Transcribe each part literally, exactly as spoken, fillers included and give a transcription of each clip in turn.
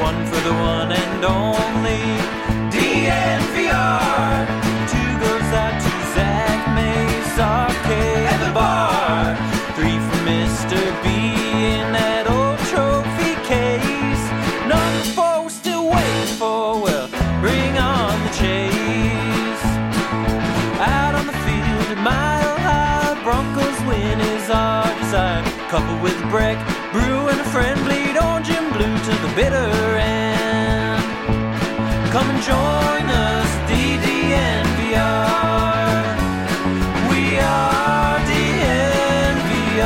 one for the one and only D N V R. Two goes out to Zach Mace, Arcade at the bar. Three for Mister B in that old trophy case. Number four we're still waiting for, well, bring on the chase. Out on the field at Mile High, Broncos win is our desire. Coupled with Breck, Brew and a friend, bleed orange and blue to the bitter end. Come and join us, D D N V R. We are D N V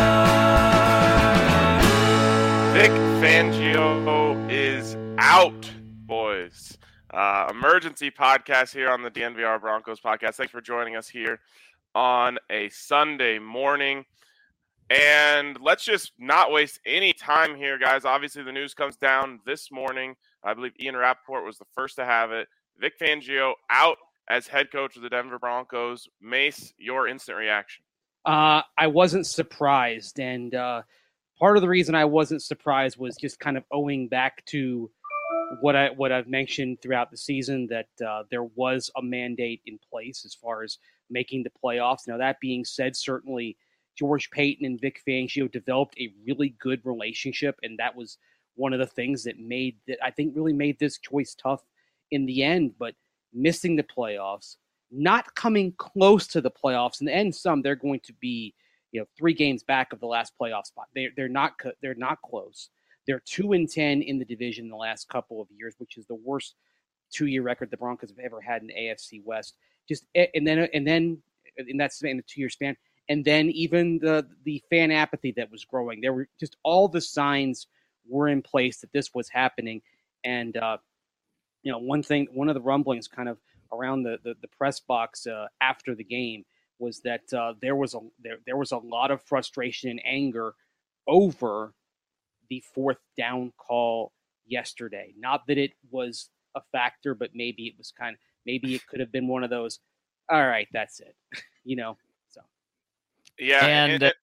R. Vic Fangio is out, boys. Uh, emergency podcast here on the D N V R Broncos podcast. Thanks for joining us here on a Sunday morning. And let's just not waste any time here, guys. Obviously, the news comes down this morning. I believe Ian Rappaport was the first to have it. Vic Fangio out as head coach of the Denver Broncos. Mace, your instant reaction? Uh, I wasn't surprised. And uh, part of the reason I wasn't surprised was just kind of owing back to what, I, what I've mentioned throughout the season, that uh, there was a mandate in place as far as making the playoffs. Now, that being said, certainly George Paton and Vic Fangio developed a really good relationship, and that was one of the things that made that I think really made this choice tough in the end. But missing the playoffs, not coming close to the playoffs, in the end, some they're going to be, you know, three games back of the last playoff spot. They they're not they're not close. They're two and ten in the division in the last couple of years, which is the worst two-year record the Broncos have ever had in the A F C West. Just and then and then in that in the two-year span. And then even the the fan apathy that was growing. There were just all the signs were in place that this was happening. And, uh, you know, one thing, one of the rumblings kind of around the, the, the press box uh, after the game was that uh, there was a there, there was a lot of frustration and anger over the fourth down call yesterday. Not that it was a factor, but maybe it was kind of, maybe it could have been one of those, all right, that's it, you know. Yeah, and, and, and,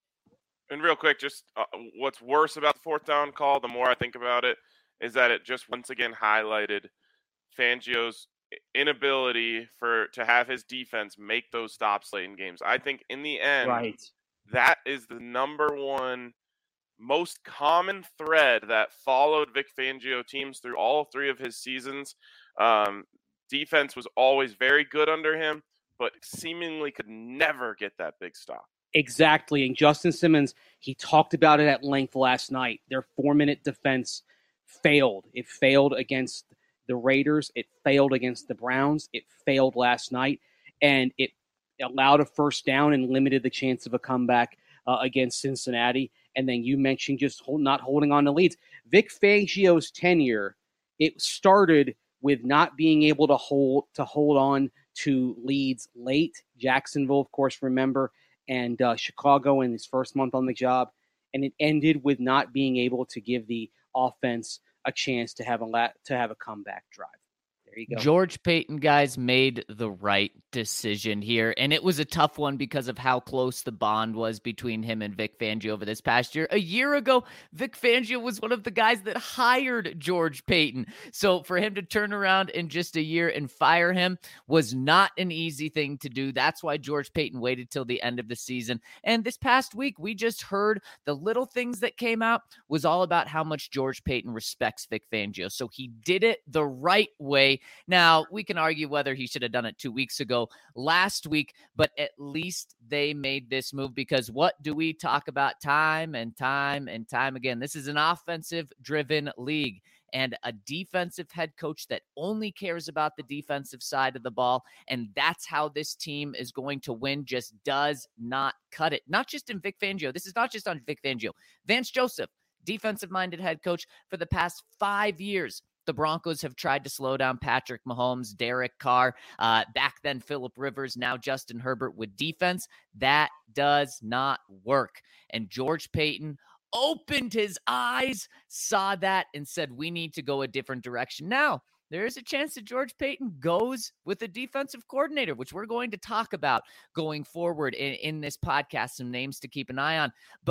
and real quick, just uh, what's worse about the fourth down call, the more I think about it, is that it just once again highlighted Fangio's inability for to have his defense make those stops late in games. I think in the end, right, that is the number one most common thread that followed Vic Fangio teams through all three of his seasons. Um, defense was always very good under him, but seemingly could never get that big stop. Exactly. And Justin Simmons, he talked about it at length last night. Their four-minute defense failed. It failed against the Raiders. It failed against the Browns. It failed last night. And it allowed a first down and limited the chance of a comeback uh, against Cincinnati. And then you mentioned just hold, not holding on to leads. Vic Fangio's tenure, it started with not being able to hold to hold on to leads late. Jacksonville, of course, remember, and uh, Chicago in his first month on the job. And it ended with not being able to give the offense a chance to have a la- to have a comeback drive. There you go. George Paton, guys, made the right decision here, and it was a tough one because of how close the bond was between him and Vic Fangio over this past year. A year ago, Vic Fangio was one of the guys that hired George Paton. So for him to turn around in just a year and fire him was not an easy thing to do. That's why George Paton waited till the end of the season. And this past week, we just heard the little things that came out was all about how much George Paton respects Vic Fangio. So he did it the right way. Now, we can argue whether he should have done it two weeks ago, last week, but at least they made this move, because what do we talk about time and time and time again? This is an offensive-driven league, and a defensive head coach that only cares about the defensive side of the ball, and that's how this team is going to win, just does not cut it. Not just in Vic Fangio. This is not just on Vic Fangio. Vance Joseph, defensive-minded head coach for the past five years. The Broncos have tried to slow down Patrick Mahomes, Derek Carr, uh, back then Phillip Rivers, now Justin Herbert with defense. That does not work. And George Paton opened his eyes, saw that, and said, we need to go a different direction. Now, there is a chance that George Paton goes with a defensive coordinator, which we're going to talk about going forward in, in this podcast, some names to keep an eye on. But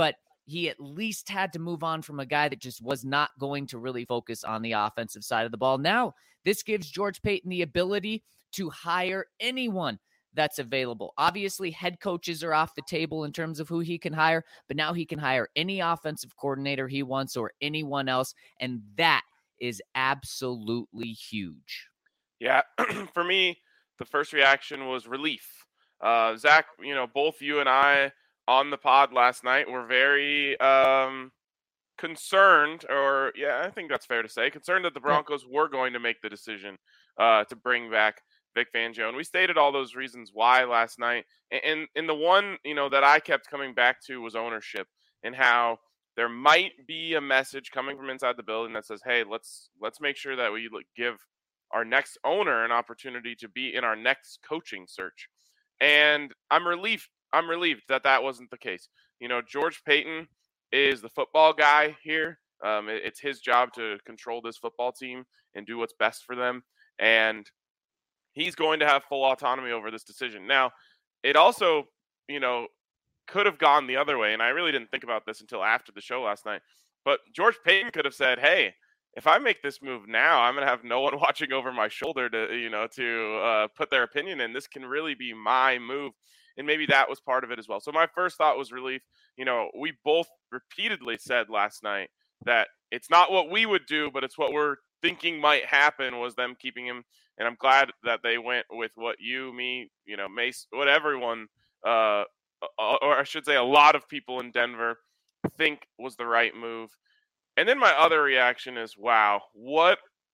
he at least had to move on from a guy that just was not going to really focus on the offensive side of the ball. Now, this gives George Paton the ability to hire anyone that's available. Obviously, head coaches are off the table in terms of who he can hire, but now he can hire any offensive coordinator he wants or anyone else, and that is absolutely huge. Yeah, for me, the first reaction was relief. Uh, Zach, you know, both you and I on the pod last night were very um, concerned, or yeah, I think that's fair to say, concerned that the Broncos yeah. were going to make the decision uh, to bring back Vic Fangio, and we stated all those reasons why last night. And, and and the one, you know, that I kept coming back to was ownership, and how there might be a message coming from inside the building that says, "Hey, let's let's make sure that we give our next owner an opportunity to be in our next coaching search." And I'm relieved. I'm relieved that that wasn't the case. You know, George Paton is the football guy here. Um, it, it's his job to control this football team and do what's best for them, and he's going to have full autonomy over this decision. Now, it also, you know, could have gone the other way, and I really didn't think about this until after the show last night. But George Paton could have said, "Hey, if I make this move now, I'm going to have no one watching over my shoulder to, you know, to uh, put their opinion in. This can really be my move." And maybe that was part of it as well. So my first thought was relief. You know, we both repeatedly said last night that it's not what we would do, but it's what we're thinking might happen was them keeping him. And I'm glad that they went with what you, me, you know, Mace, what everyone, uh, or I should say a lot of people in Denver think was the right move. And then my other reaction is, wow, what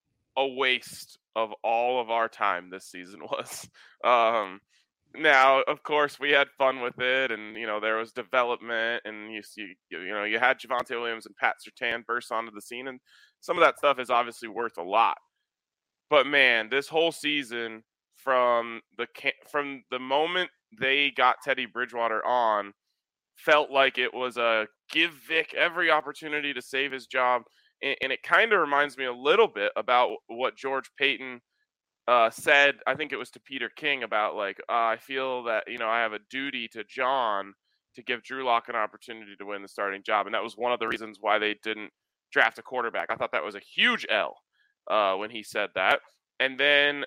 a waste of all of our time this season was. Um, now, of course, we had fun with it, and, you know, there was development, and you see, you know, you had Javonte Williams and Pat Surtain burst onto the scene, and some of that stuff is obviously worth a lot. But man, this whole season, from the from the moment they got Teddy Bridgewater on, felt like it was a give Vic every opportunity to save his job. And, and it kind of reminds me a little bit about what George Paton uh, said, I think it was to Peter King, about like, uh, I feel that, you know, I have a duty to John to give Drew Lock an opportunity to win the starting job. And that was one of the reasons why they didn't draft a quarterback. I thought that was a huge L uh, when he said that. And then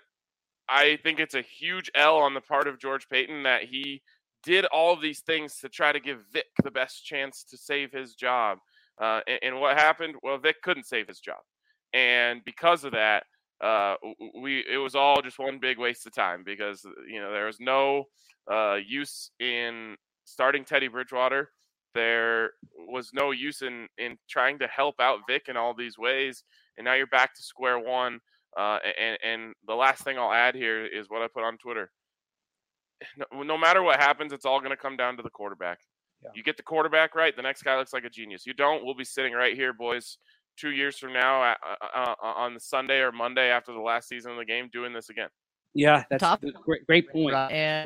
I think it's a huge L on the part of George Paton that he did all of these things to try to give Vic the best chance to save his job. Uh, and, and what happened? Well, Vic couldn't save his job. And because of that, uh, we it was all just one big waste of time, because, you know, there was no uh, use in starting Teddy Bridgewater. There was no use in, in trying to help out Vic in all these ways. And now you're back to square one. Uh, and, and the last thing I'll add here is what I put on Twitter. No, no matter what happens, it's all going to come down to the quarterback. Yeah. You get the quarterback right, the next guy looks like a genius. You don't, we'll be sitting right here, boys, two years from now uh, uh, on the Sunday or Monday after the last season of the game doing this again. Yeah, that's a great, great point. And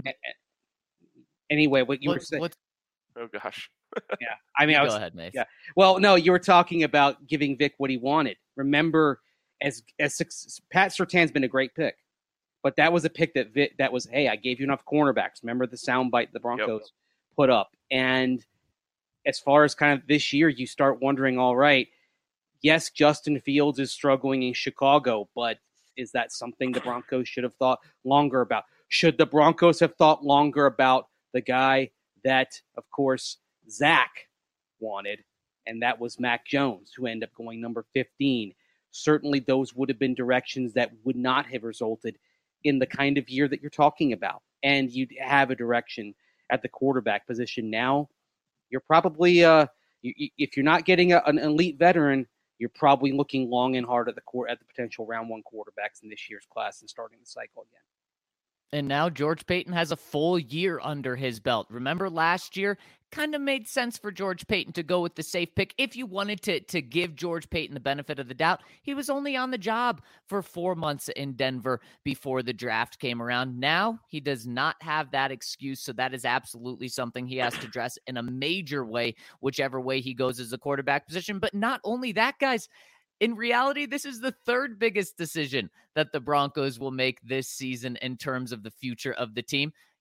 anyway, what you what, were saying. What, oh, gosh. yeah, I mean, I was, go ahead, Mace. Yeah. Well, no, you were talking about giving Vic what he wanted. Remember, as as Pat Surtain's been a great pick. But that was a pick that Vic, that was, hey, I gave you enough cornerbacks. Remember the soundbite the Broncos yep. put up. And as far as kind of this year, you start wondering, all right, yes, Justin Fields is struggling in Chicago, but is that something the Broncos should have thought longer about? Should the Broncos have thought longer about the guy that, of course, Zach wanted, and that was Mac Jones, who ended up going number fifteen? Certainly those would have been directions that would not have resulted in the kind of year that you're talking about. And you'd have a direction at the quarterback position. Now, you're probably, uh, you, if you're not getting a, an elite veteran, you're probably looking long and hard at the court at the potential round one quarterbacks in this year's class and starting the cycle again. And now George Paton has a full year under his belt. Remember last year, kind of made sense for George Paton to go with the safe pick. If you wanted to, to give George Paton the benefit of the doubt, he was only on the job for four months in Denver before the draft came around. Now he does not have that excuse, so that is absolutely something he has to address in a major way, whichever way he goes as a quarterback position. But not only that, guys, in reality, this is the third biggest decision that the Broncos will make this season in terms of the future of the team.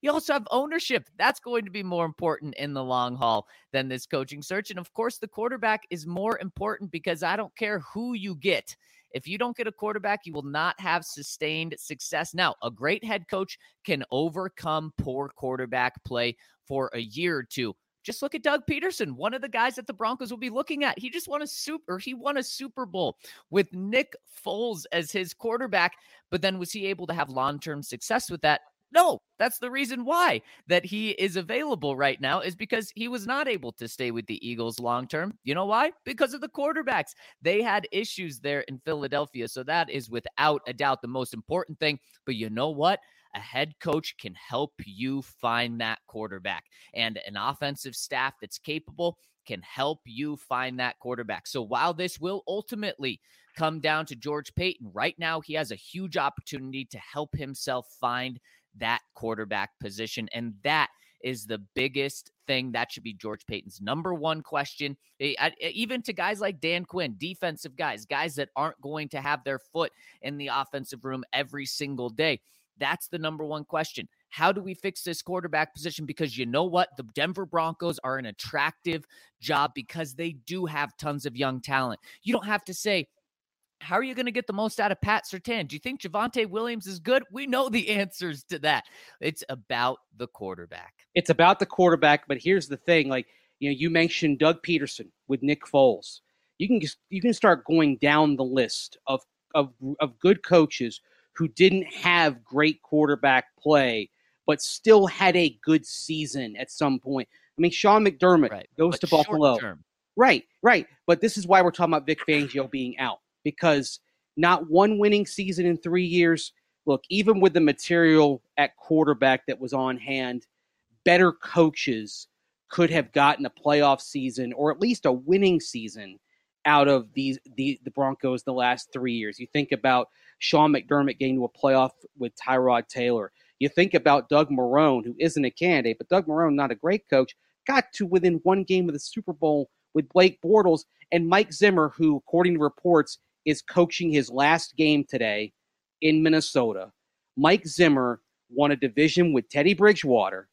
You also have ownership. That's going to be more important in the long haul than this coaching search. And of course, the quarterback is more important because I don't care who you get. If you don't get a quarterback, you will not have sustained success. Now, a great head coach can overcome poor quarterback play for a year or two. Just look at Doug Peterson, one of the guys that the Broncos will be looking at. He just won a super, he won a Super Bowl with Nick Foles as his quarterback. But then was he able to have long-term success with that? No, that's the reason why that he is available right now is because he was not able to stay with the Eagles long-term. You know why? Because of the quarterbacks. They had issues there in Philadelphia. So that is without a doubt the most important thing. But you know what? A head coach can help you find that quarterback, and an offensive staff that's capable can help you find that quarterback. So while this will ultimately come down to George Paton, right now he has a huge opportunity to help himself find that quarterback position. And that is the biggest thing. That should be George Paton's number one question. Even to guys like Dan Quinn, defensive guys, guys that aren't going to have their foot in the offensive room every single day. That's the number one question. How do we fix this quarterback position? Because you know what? The Denver Broncos are an attractive job because they do have tons of young talent. You don't have to say, how are you going to get the most out of Pat Surtain? Do you think Javonte Williams is good? We know the answers to that. It's about the quarterback. It's about the quarterback, but here's the thing. Like, you know, you mentioned Doug Peterson with Nick Foles. You can just, you can start going down the list of, of, of good coaches who didn't have great quarterback play, but still had a good season at some point. I mean, Sean McDermott right. goes but to Buffalo. Term. Right, right. But this is why we're talking about Vic Fangio being out, because not one winning season in three years. Look, even with the material at quarterback that was on hand, better coaches could have gotten a playoff season or at least a winning season out of these the, the Broncos the last three years. You think about Sean McDermott getting to a playoff with Tyrod Taylor. You think about Doug Marrone, who isn't a candidate, but Doug Marrone, not a great coach, got to within one game of the Super Bowl with Blake Bortles, and Mike Zimmer, who, according to reports, is coaching his last game today in Minnesota. Mike Zimmer won a division with Teddy Bridgewater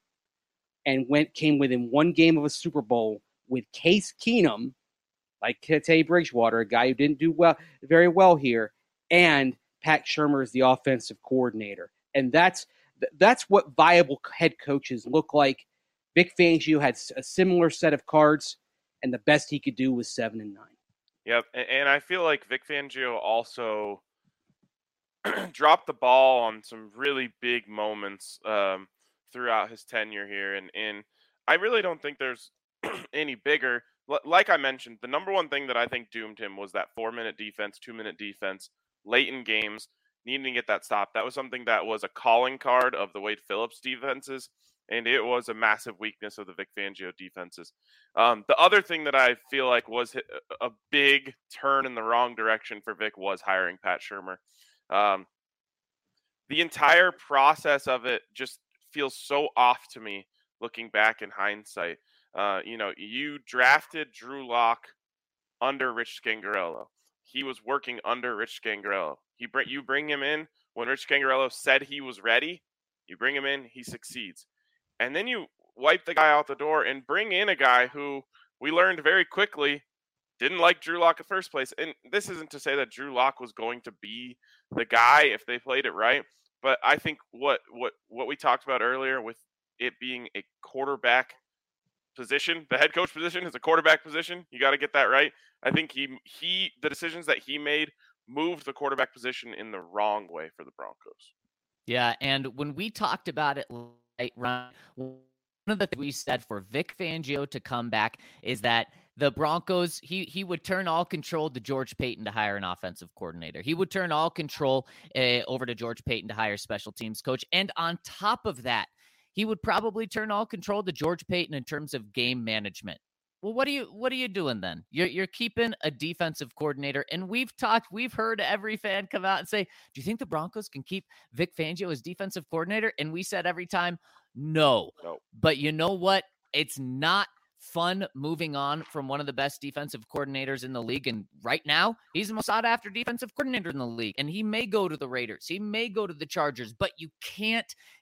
and went came within one game of a Super Bowl with Case Keenum, like Teddy Bridgewater, a guy who didn't do well, very well here, and Pat Shurmur is the offensive coordinator. And that's that's what viable head coaches look like. Vic Fangio had a similar set of cards, and the best he could do was seven and nine. Yep, and I feel like Vic Fangio also dropped the ball on some really big moments um, throughout his tenure here, and, and I really don't think there's any bigger. Like I mentioned, the number one thing that I think doomed him was that four-minute defense, two-minute defense, late in games, needing to get that stop. That was something that was a calling card of the Wade Phillips defenses, and it was a massive weakness of the Vic Fangio defenses. Um, the other thing that I feel like was a big turn in the wrong direction for Vic was hiring Pat Shurmur. Um, the entire process of it just feels so off to me looking back in hindsight. Uh, you know, you drafted Drew Lock under Rich Scangarello. He was working under Rich Scangarello. He bring you bring him in when Rich Scangarello said he was ready. You bring him in, he succeeds, and then you wipe the guy out the door and bring in a guy who we learned very quickly didn't like Drew Lock in the first place. And this isn't to say that Drew Lock was going to be the guy if they played it right, but I think what what what we talked about earlier with it being a quarterback position, the head coach position is a quarterback position. You got to get that right. I think he he the decisions that he made moved the quarterback position in the wrong way for the Broncos. Yeah, and when we talked about it, right, Ryan, one of the things we said for Vic Fangio to come back is that the Broncos, he he would turn all control to George Paton to hire an offensive coordinator. He would turn all control uh, over to George Paton to hire special teams coach. And on top of that, he would probably turn all control to George Paton in terms of game management. Well, what are you what are you doing then? You're you're keeping a defensive coordinator, and we've talked, we've heard every fan come out and say, "Do you think the Broncos can keep Vic Fangio as defensive coordinator?" And we said every time, no. no. But you know what? It's not fun moving on from one of the best defensive coordinators in the league. And right now, he's the most sought-after defensive coordinator in the league. And he may go to the Raiders. He may go to the Chargers. But you can't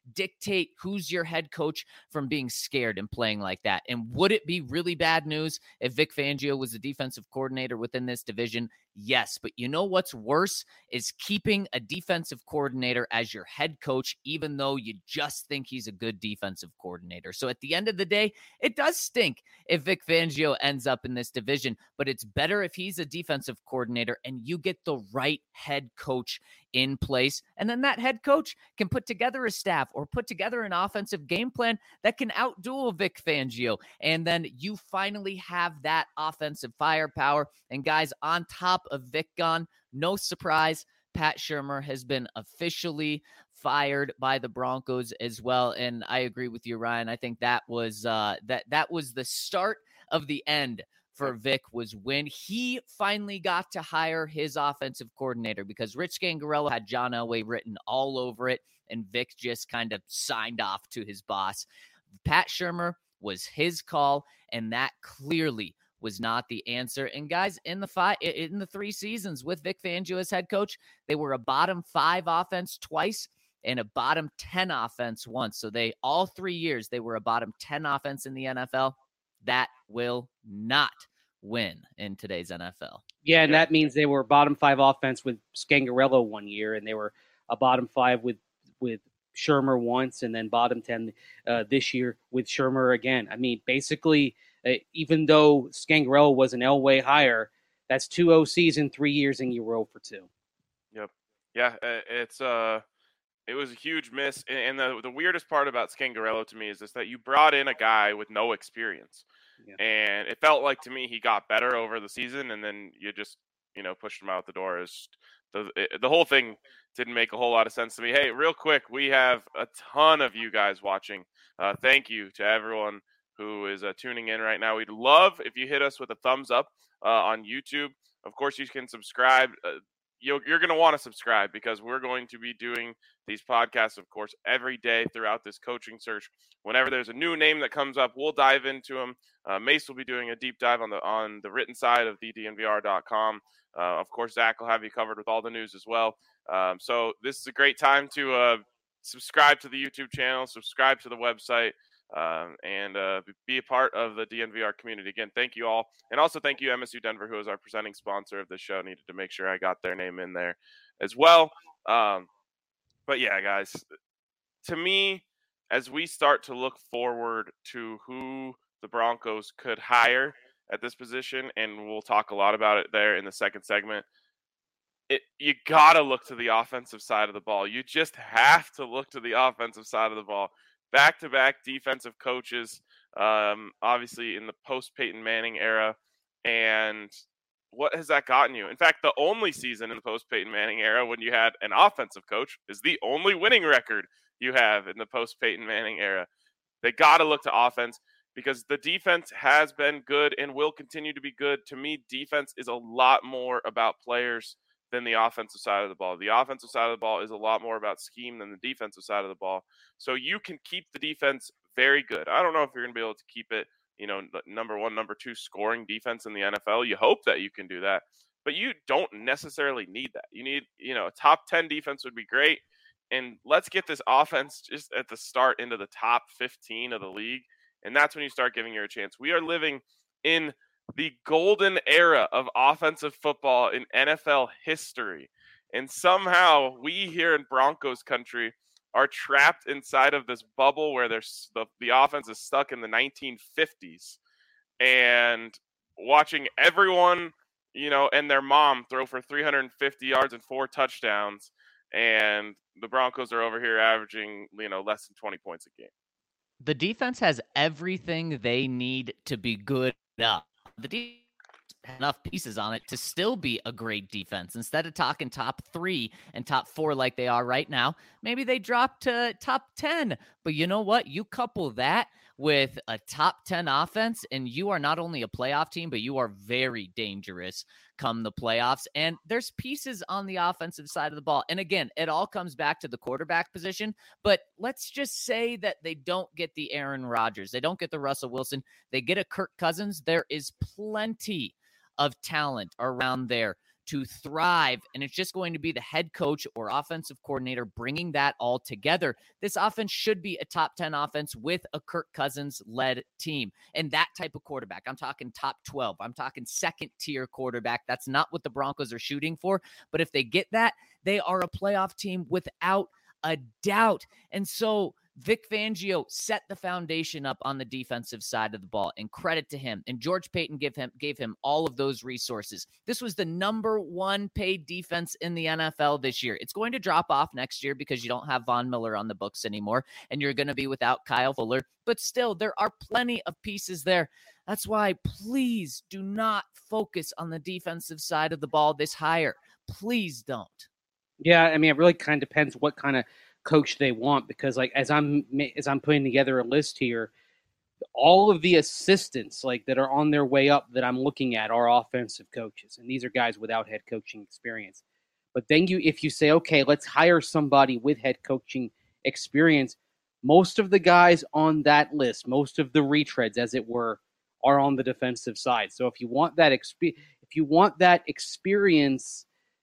dictate who's your head coach from being scared and playing like that. And would it be really bad news if Vic Fangio was the defensive coordinator within this division? Yes, but you know what's worse is keeping a defensive coordinator as your head coach, even though you just think he's a good defensive coordinator. So at the end of the day, it does stink if Vic Fangio ends up in this division, but it's better if he's a defensive coordinator and you get the right head coach in place. And then that head coach can put together a staff or put together an offensive game plan that can outduel Vic Fangio. And then you finally have that offensive firepower. And guys, on top of Vic gone, no surprise, Pat Shurmur has been officially fired by the Broncos as well. And I agree with you, Ryan. I think that was uh, that that was the start of the end for Vic, was when he finally got to hire his offensive coordinator, because Rich Scangarello had John Elway written all over it, and Vic just kind of signed off to his boss. Pat Shurmur was his call, and that clearly was not the answer. And guys, in the five, in the three seasons with Vic Fangio as head coach, they were a bottom five offense twice and a bottom ten offense once. So they, all three years, they were a bottom ten offense in the N F L. That will not win in today's N F L. Yeah, and that means they were bottom five offense with Scangarello one year, and they were a bottom five with with Shurmur once, and then bottom ten uh, this year with Shurmur again. I mean, basically, uh, even though Scangarello was an Elway hire, that's two O Cs in three years, and you were zero for two. Yep. Yeah, it's uh, it was a huge miss. And the the weirdest part about Scangarello to me is this, that you brought in a guy with no experience. Yeah. And it felt like to me he got better over the season, and then you just, you know, pushed him out the door. It's, the it, the whole thing didn't make a whole lot of sense to me. Hey, real quick, we have a ton of you guys watching. Uh, thank you to everyone who is uh, tuning in right now. We'd love if you hit us with a thumbs up uh, on YouTube. Of course, you can subscribe. Uh, You're, you're going to want to subscribe, because we're going to be doing these podcasts, of course, every day throughout this coaching search. Whenever there's a new name that comes up, we'll dive into them. Uh, Mace will be doing a deep dive on the on the written side of the D N V R dot com. Uh, of course, Zach will have you covered with all the news as well. Um, so this is a great time to uh, subscribe to the YouTube channel, subscribe to the website, um, and uh, be a part of the D N V R community. Again, thank you all. And also thank you, M S U Denver, who is our presenting sponsor of the show. Needed to make sure I got their name in there as well. Um, but yeah, guys, to me, as we start to look forward to who the Broncos could hire at this position, and we'll talk a lot about it there in the second segment, It, you got to look to the offensive side of the ball. You just have to look to the offensive side of the ball. Back-to-back defensive coaches, um, obviously in the post-Peyton Manning era. And what has that gotten you? In fact, the only season in the post-Peyton Manning era when you had an offensive coach is the only winning record you have in the post-Peyton Manning era. They got to look to offense, because the defense has been good and will continue to be good. To me, defense is a lot more about players than the offensive side of the ball. The offensive side of the ball is a lot more about scheme than the defensive side of the ball. So you can keep the defense very good. I don't know if you're going to be able to keep it, you know, number one, number two scoring defense in the N F L. You hope that you can do that, but you don't necessarily need that. You need, you know, a top ten defense would be great. And let's get this offense just at the start into the top fifteen of the league. And that's when you start giving her a chance. We are living in the golden era of offensive football in N F L history. And somehow we here in Broncos country are trapped inside of this bubble where there's the, the offense is stuck in the nineteen fifties, and watching everyone, you know, and their mom throw for three hundred fifty yards and four touchdowns. And the Broncos are over here averaging, you know, less than twenty points a game. The defense has everything they need to be good up. The defense has enough pieces on it to still be a great defense. Instead of talking top three and top four like they are right now, maybe they drop to top ten. But you know what? You couple that with a top ten offense, and you are not only a playoff team, but you are very dangerous come the playoffs. And there's pieces on the offensive side of the ball. And again, it all comes back to the quarterback position. But let's just say that they don't get the Aaron Rodgers. They don't get the Russell Wilson. They get a Kirk Cousins. There is plenty of talent around there to thrive. And it's just going to be the head coach or offensive coordinator bringing that all together. This offense should be a top ten offense with a Kirk Cousins-led team. And that type of quarterback, I'm talking top twelve. I'm talking second-tier quarterback. That's not what the Broncos are shooting for. But if they get that, they are a playoff team without a doubt. And so Vic Fangio set the foundation up on the defensive side of the ball, and credit to him. And George Paton gave him gave him all of those resources. This was the number one paid defense in the N F L this year. It's going to drop off next year because you don't have Von Miller on the books anymore, and you're going to be without Kyle Fuller. But still, there are plenty of pieces there. That's why please do not focus on the defensive side of the ball this higher. Please don't. Yeah, I mean, it really kind of depends what kind of coach they want, because like as I'm as I'm putting together a list here, all of the assistants like that are on their way up that I'm looking at are offensive coaches, and these are guys without head coaching experience. But then you if you say, okay, let's hire somebody with head coaching experience, most of the guys on that list, most of the retreads as it were, are on the defensive side. So if you want that exp- if you want that experience,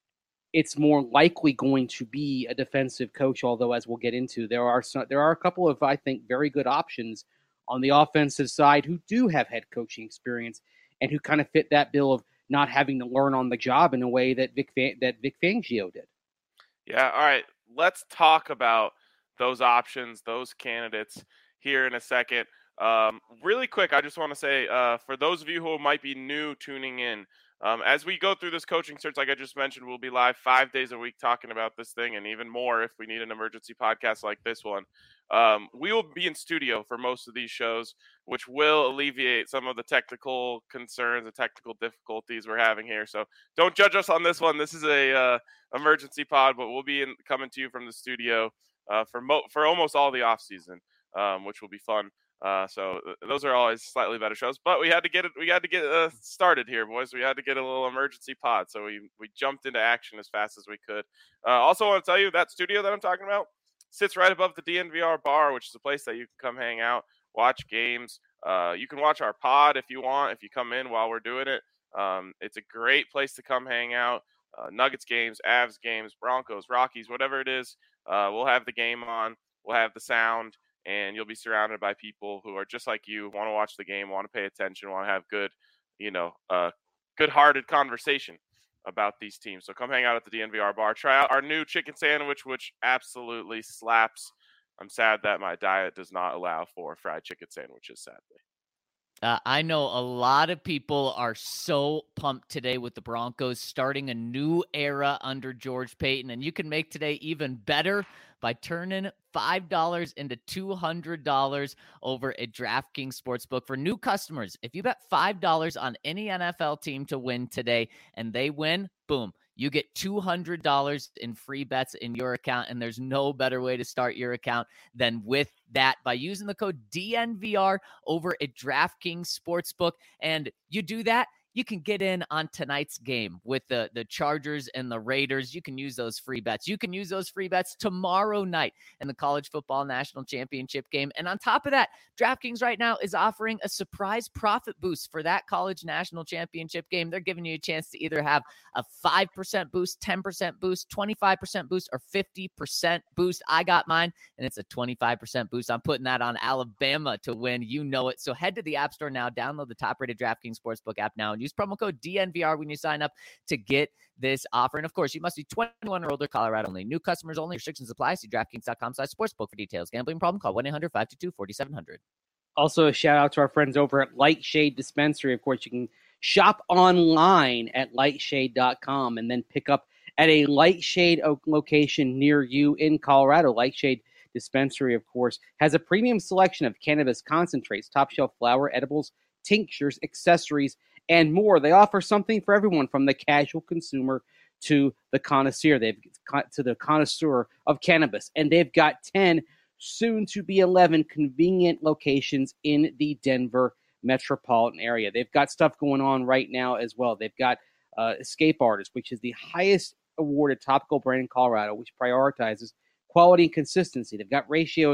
it's more likely going to be a defensive coach, although as we'll get into, there are some, there are a couple of, I think, very good options on the offensive side who do have head coaching experience and who kind of fit that bill of not having to learn on the job in a way that Vic that Vic Fangio did. Yeah, all right. Let's talk about those options, those candidates here in a second. Um, really quick, I just want to say, uh, for those of you who might be new tuning in, Um, as we go through this coaching search, like I just mentioned, we'll be live five days a week talking about this thing, and even more if we need an emergency podcast like this one. Um, we will be in studio for most of these shows, which will alleviate some of the technical concerns and technical difficulties we're having here. So don't judge us on this one. This is a uh, emergency pod, but we'll be in, coming to you from the studio uh, for mo- for almost all the off season, um, which will be fun. Uh, so those are always slightly better shows, but we had to get it. We had to get uh, started here, boys. We had to get a little emergency pod, so we we jumped into action as fast as we could. Uh, also, want to tell you that studio that I'm talking about sits right above the D N V R bar, which is a place that you can come hang out, watch games. Uh, you can watch our pod if you want. If you come in while we're doing it, um, it's a great place to come hang out. Uh, Nuggets games, Avs games, Broncos, Rockies, whatever it is. Uh, we'll have the game on. We'll have the sound. And you'll be surrounded by people who are just like you, want to watch the game, want to pay attention, want to have good, you know, uh, good-hearted conversation about these teams. So come hang out at the D N V R bar. Try out our new chicken sandwich, which absolutely slaps. I'm sad that my diet does not allow for fried chicken sandwiches, sadly. Uh, I know a lot of people are so pumped today with the Broncos starting a new era under George Paton, and you can make today even better by turning five dollars into two hundred dollars over at DraftKings Sportsbook. For new customers, if you bet five dollars on any N F L team to win today and they win, boom, you get two hundred dollars in free bets in your account, and there's no better way to start your account than with that by using the code D N V R over at DraftKings Sportsbook. And you do that, you can get in on tonight's game with the, the Chargers and the Raiders. You can use those free bets. You can use those free bets tomorrow night in the College Football National Championship game. And on top of that, DraftKings right now is offering a surprise profit boost for that College National Championship game. They're giving you a chance to either have a five percent boost, ten percent boost, twenty-five percent boost, or fifty percent boost. I got mine, and it's a twenty-five percent boost. I'm putting that on Alabama to win. You know it. So head to the App Store now, download the top-rated DraftKings Sportsbook app now, and use promo code D N V R when you sign up to get this offer. And of course, you must be twenty-one or older, Colorado only. New customers only. Restrictions apply. See DraftKings.com slash sportsbook for details. Gambling problem? Call one eight hundred five two two four seven zero zero. Also, a shout out to our friends over at Lightshade Dispensary. Of course, you can shop online at lightshade dot com and then pick up at a Lightshade location near you in Colorado. Lightshade Dispensary, of course, has a premium selection of cannabis concentrates, top shelf flower, edibles, tinctures, accessories, and more. They offer something for everyone from the casual consumer to the connoisseur. They've to the connoisseur of cannabis, and they've got ten, soon to be eleven, convenient locations in the Denver metropolitan area. They've got stuff going on right now as well. They've got uh, Escape Artist, which is the highest awarded topical brand in Colorado, which prioritizes quality and consistency. They've got ratios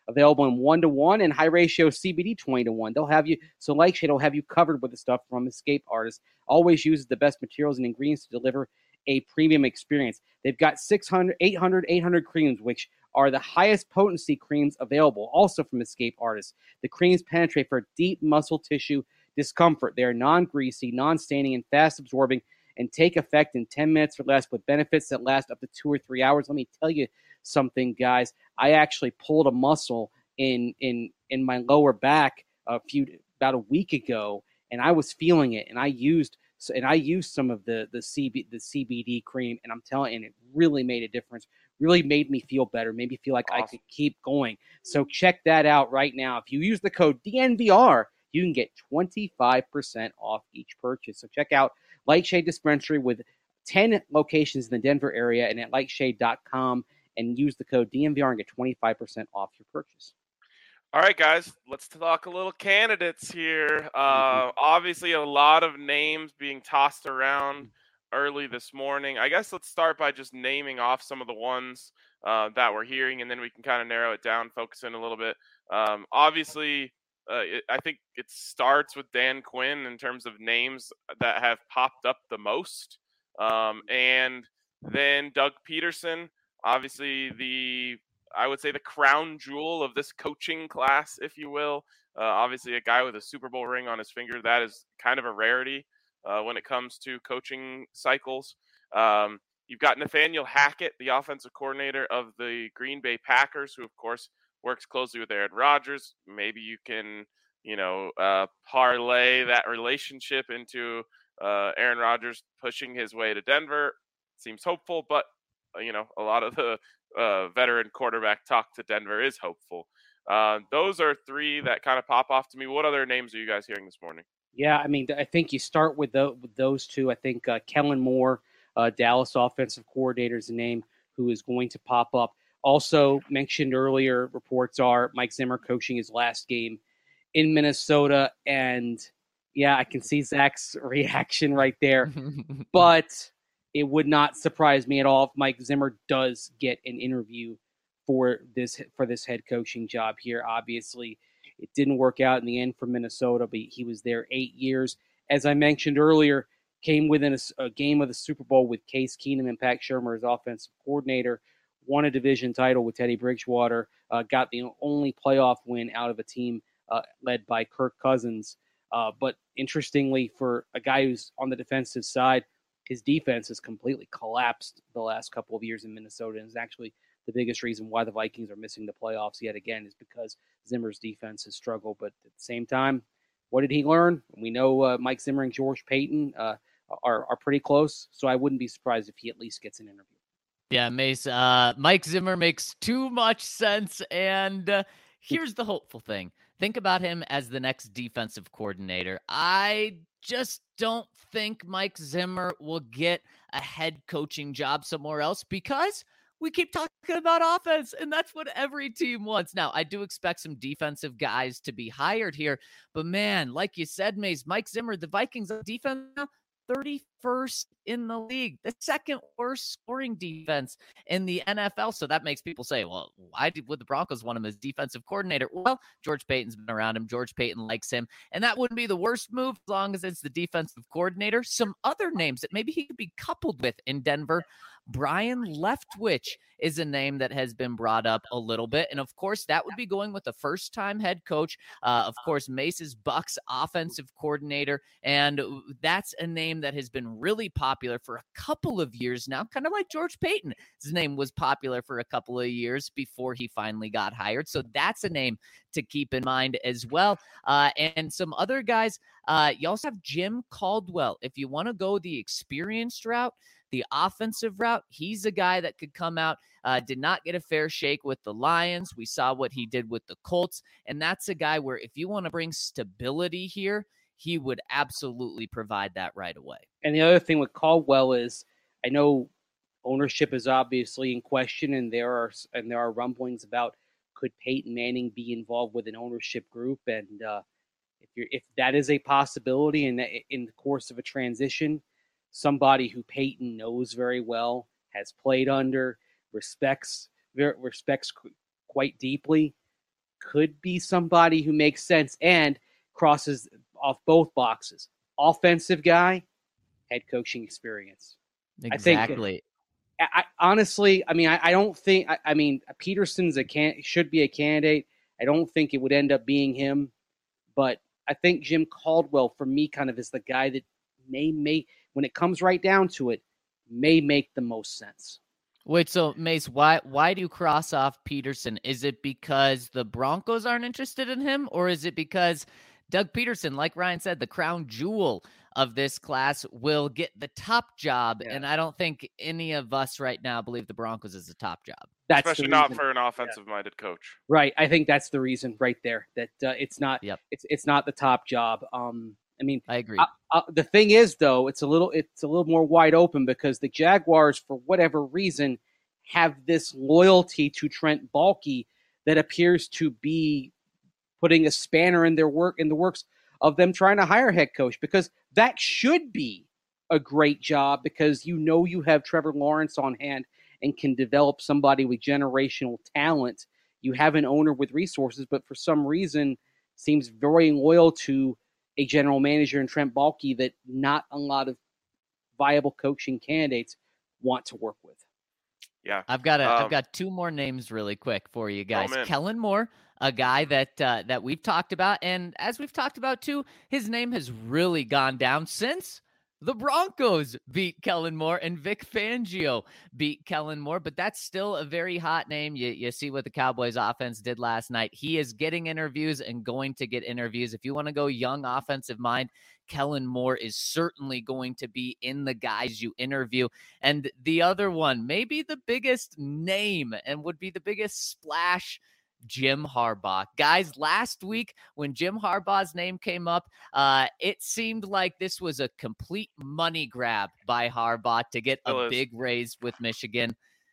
available in one to one and high ratio C B D twenty to one. They'll have you, so Lightshade will have you covered with the stuff from Escape Artists. Always uses the best materials and ingredients to deliver a premium experience. They've got six hundred, eight hundred, eight hundred creams, which are the highest potency creams available, also from Escape Artists. The creams penetrate for deep muscle tissue discomfort. They are non-greasy, non-staining, and fast-absorbing, and take effect in ten minutes or less with benefits that last up to two or three hours. Let me tell you something, guys. I actually pulled a muscle in in in my lower back a few about a week ago, and I was feeling it, and I used and I used some of the the C B the C B D cream, and I'm telling you, and it really made a difference. Really made me feel better, made me feel like awesome. I could keep going. So check that out right now. If you use the code D N V R, you can get twenty-five percent off each purchase. So check out Lightshade Dispensary with ten locations in the Denver area and at lightshade dot com and use the code D N V R and get twenty-five percent off your purchase. All right, guys, let's talk a little candidates here. Uh, obviously, a lot of names being tossed around early this morning. I guess let's start by just naming off some of the ones uh, that we're hearing, and then we can kind of narrow it down, focus in a little bit. Um, obviously, uh, it, I think it starts with Dan Quinn in terms of names that have popped up the most. Um, and then Doug Peterson, obviously the, I would say the crown jewel of this coaching class, if you will. Uh, obviously a guy with a Super Bowl ring on his finger. That is kind of a rarity uh, when it comes to coaching cycles. Um, you've got Nathaniel Hackett, the offensive coordinator of the Green Bay Packers, who of course works closely with Aaron Rodgers. Maybe you can, you know, uh, parlay that relationship into uh, Aaron Rodgers pushing his way to Denver. Seems hopeful, but, uh, you know, a lot of the uh, veteran quarterback talk to Denver is hopeful. Uh, those are three that kind of pop off to me. What other names are you guys hearing this morning? Yeah, I mean, I think you start with, the, with those two. I think uh, Kellen Moore, uh, Dallas offensive coordinator, is a name who is going to pop up. Also mentioned earlier, reports are Mike Zimmer coaching his last game in Minnesota. And, yeah, I can see Zach's reaction right there. But it would not surprise me at all if Mike Zimmer does get an interview for this for this head coaching job here. Obviously, it didn't work out in the end for Minnesota, but he was there eight years. As I mentioned earlier, came within a, a game of the Super Bowl with Case Keenum and Pat Shurmur as offensive coordinator, won a division title with Teddy Bridgewater, uh, got the only playoff win out of a team uh, led by Kirk Cousins. Uh, but interestingly, for a guy who's on the defensive side, his defense has completely collapsed the last couple of years in Minnesota, and is actually the biggest reason why the Vikings are missing the playoffs yet again is because Zimmer's defense has struggled. But at the same time, what did he learn? We know uh, Mike Zimmer and George Paton uh, are, are pretty close, so I wouldn't be surprised if he at least gets an interview. Yeah, Mace, uh, Mike Zimmer makes too much sense, and uh, here's the hopeful thing. Think about him as the next defensive coordinator. I just don't think Mike Zimmer will get a head coaching job somewhere else because we keep talking about offense, and that's what every team wants. Now, I do expect some defensive guys to be hired here, but man, like you said, Mace, Mike Zimmer, the Vikings defense now, thirty-first in the league, the second worst scoring defense in the N F L. So that makes people say, well, why did, would the Broncos want him as defensive coordinator? Well, George Paton's been around him. George Paton likes him. And that wouldn't be the worst move as long as it's the defensive coordinator. Some other names that maybe he could be coupled with in Denver. Brian Leftwich is a name that has been brought up a little bit. And of course, that would be going with a first-time head coach. Uh, of course, Mace's Bucks offensive coordinator. And that's a name that has been really popular for a couple of years now, kind of like George Paton. His name was popular for a couple of years before he finally got hired. So that's a name to keep in mind as well. Uh, and some other guys, uh, you also have Jim Caldwell. If you want to go the experienced route, the offensive route, he's a guy that could come out, uh, did not get a fair shake with the Lions. We saw what he did with the Colts. And that's a guy where if you want to bring stability here, he would absolutely provide that right away. And the other thing with Caldwell is, I know ownership is obviously in question, and there are and there are rumblings about could Peyton Manning be involved with an ownership group, and uh, if you're if that is a possibility in in the course of a transition, somebody who Peyton knows very well, has played under, respects respects quite deeply, could be somebody who makes sense and crosses off both boxes. Offensive guy, head coaching experience. Exactly. I think, I, I honestly, I mean, I, I don't think. I, I mean, Peterson's a can should be a candidate. I don't think it would end up being him, but I think Jim Caldwell, for me, kind of is the guy that may make, when it comes right down to it, may make the most sense. Wait, so Mace, why why do you cross off Peterson? Is it because the Broncos aren't interested in him, or is it because Doug Peterson, like Ryan said, the crown jewel of this class, will get the top job? Yeah. And I don't think any of us right now believe the Broncos is the top job. That's Especially not for an offensive-minded yeah. coach. Right. I think that's the reason right there, that uh, it's not yep. it's it's not the top job. Um, I mean, I agree. Uh, uh, the thing is, though, it's a little it's a little more wide open because the Jaguars, for whatever reason, have this loyalty to Trent Baalke that appears to be putting a spanner in their work in the works of them trying to hire a head coach, because that should be a great job, because you know you have Trevor Lawrence on hand and can develop somebody with generational talent. You have an owner with resources, but for some reason seems very loyal to a general manager in Trent Baalke that not a lot of viable coaching candidates want to work with. Yeah, I've got a, um, I've got two more names really quick for you guys. Oh, Kellen Moore, a guy that uh, that we've talked about, and as we've talked about too, his name has really gone down since the Broncos beat Kellen Moore and Vic Fangio beat Kellen Moore, but that's still a very hot name. You you see what the Cowboys offense did last night. He is getting interviews and going to get interviews. If you want to go young offensive mind, Kellen Moore is certainly going to be in the guys you interview. And the other one, maybe the biggest name and would be the biggest splash, Jim Harbaugh. Guys, last week when Jim Harbaugh's name came up, uh, it seemed like this was a complete money grab by Harbaugh to get a big raise with Michigan.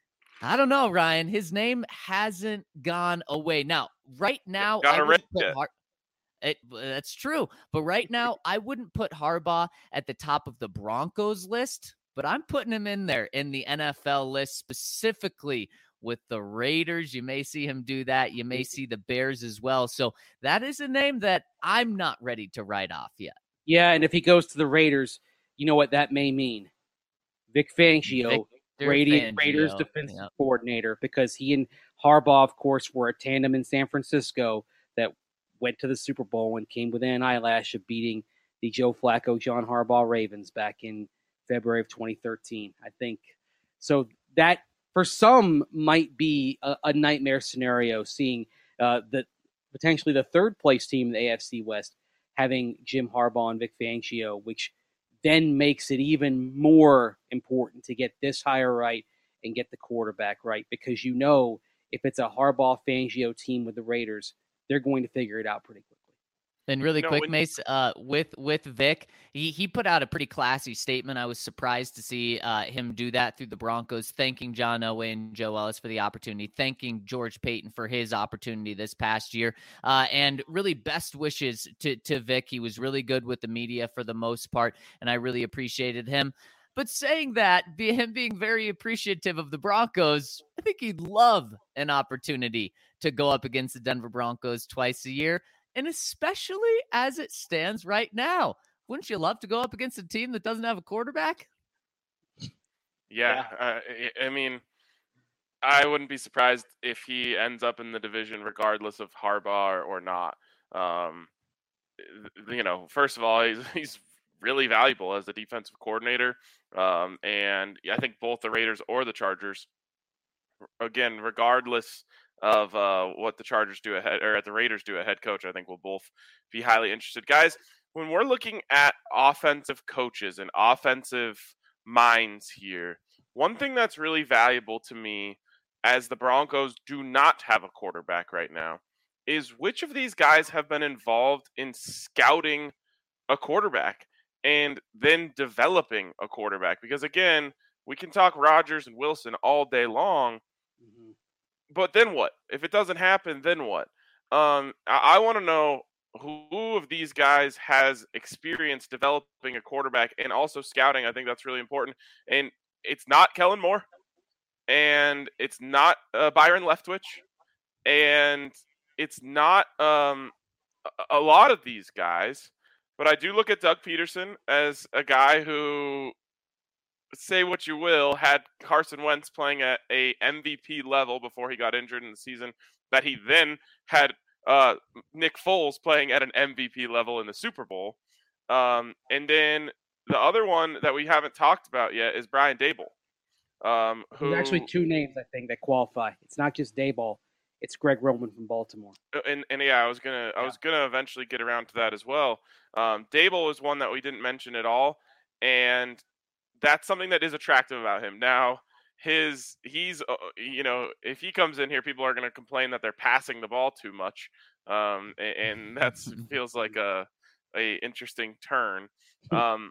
I don't know, Ryan. His name hasn't gone away. Now, right now, I wouldn't put Har- it, that's true. But right now, I wouldn't put Harbaugh at the top of the Broncos list, but I'm putting him in there in the N F L list, specifically with the Raiders. You may see him do that. You may see the Bears as well. So that is a name that I'm not ready to write off yet. Yeah, and if he goes to the Raiders, you know what that may mean. Vic Fangio, Raiders, Raiders defensive yep. coordinator, because he and Harbaugh, of course, were a tandem in San Francisco that went to the Super Bowl and came within an eyelash of beating the Joe Flacco, John Harbaugh Ravens back in February of twenty thirteen. I think so. That for some might be a, a nightmare scenario, seeing uh, the potentially the third place team in the A F C West having Jim Harbaugh and Vic Fangio, which then makes it even more important to get this hire right and get the quarterback right, because you know if it's a Harbaugh Fangio team with the Raiders, they're going to figure it out pretty quickly. And really no, quick, when... Mace, uh, with with Vic, he, he put out a pretty classy statement. I was surprised to see uh, him do that through the Broncos, thanking John Elway and Joe Ellis for the opportunity, thanking George Paton for his opportunity this past year, uh, and really best wishes to, to Vic. He was really good with the media for the most part, and I really appreciated him. But saying that, be him being very appreciative of the Broncos, I think he'd love an opportunity to go up against the Denver Broncos twice a year. And especially as it stands right now, wouldn't you love to go up against a team that doesn't have a quarterback? Yeah, yeah. Uh, I mean, I wouldn't be surprised if he ends up in the division regardless of Harbaugh or, or not. Um, you know, first of all, he's, he's really valuable as a defensive coordinator. Um, and I think both the Raiders or the Chargers, again, regardless of uh, what the Chargers do ahead or at the Raiders do a head coach, I think we'll both be highly interested. Guys, when we're looking at offensive coaches and offensive minds here, one thing that's really valuable to me, as the Broncos do not have a quarterback right now, is which of these guys have been involved in scouting a quarterback and then developing a quarterback. Because again, we can talk Rodgers and Wilson all day long, mm-hmm. but then what? If it doesn't happen, then what? Um, I, I want to know who of these guys has experience developing a quarterback and also scouting. I think that's really important. And it's not Kellen Moore, and it's not uh, Byron Leftwich, and it's not um, a, a lot of these guys, but I do look at Doug Peterson as a guy who, say what you will, had Carson Wentz playing at a M V P level before he got injured in the season, that he then had uh, Nick Foles playing at an M V P level in the Super Bowl. Um, and then the other one that we haven't talked about yet is Brian Daboll. Um, who, There's actually two names, I think, that qualify. It's not just Daboll. It's Greg Roman from Baltimore. And, and yeah, I was gonna I was gonna eventually get around to that as well. Um, Daboll is one that we didn't mention at all, and that's something that is attractive about him. Now, his he's uh, you know, if he comes in here, people are going to complain that they're passing the ball too much, um, and, and that feels like a a interesting turn. Um,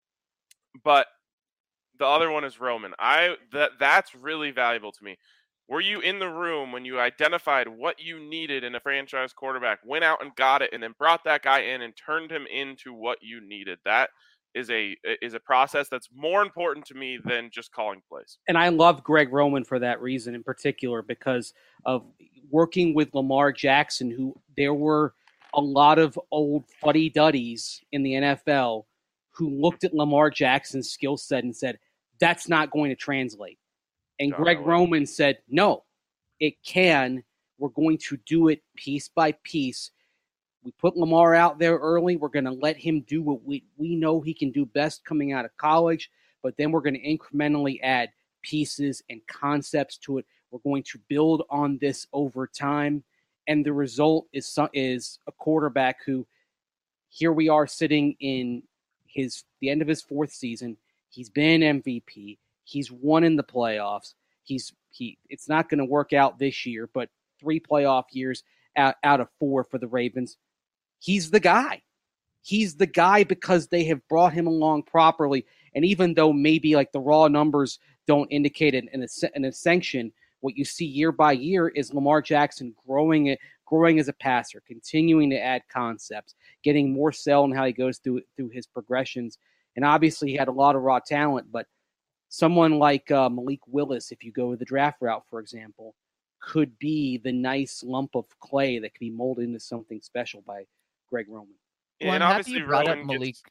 but the other one is Roman. I that that's really valuable to me. Were you in the room when you identified what you needed in a franchise quarterback, went out and got it, and then brought that guy in and turned him into what you needed? That is a is a process that's more important to me than just calling plays. And I love Greg Roman for that reason in particular, because of working with Lamar Jackson, who there were a lot of old fuddy-duddies in the N F L who looked at Lamar Jackson's skill set and said, that's not going to translate. And Oh, Greg wow. Roman said, no, it can. We're going to do it piece by piece. We put Lamar out there early. We're going to let him do what we, we know he can do best coming out of college, but then we're going to incrementally add pieces and concepts to it. We're going to build on this over time. And the result is, so- is a quarterback who, here we are sitting in his the end of his fourth season. He's been M V P. He's won in the playoffs. He's he. It's not going to work out this year, but three playoff years out, out of four for the Ravens. He's the guy. He's the guy because they have brought him along properly. And even though maybe like the raw numbers don't indicate an, an, an ascension, what you see year by year is Lamar Jackson growing it, growing as a passer, continuing to add concepts, getting more sell in how he goes through through his progressions. And obviously he had a lot of raw talent, but someone like uh, Malik Willis, if you go the draft route, for example, could be the nice lump of clay that could be molded into something special by Greg Roman. Well, and I'm happy obviously you brought Roman up Malik. gets-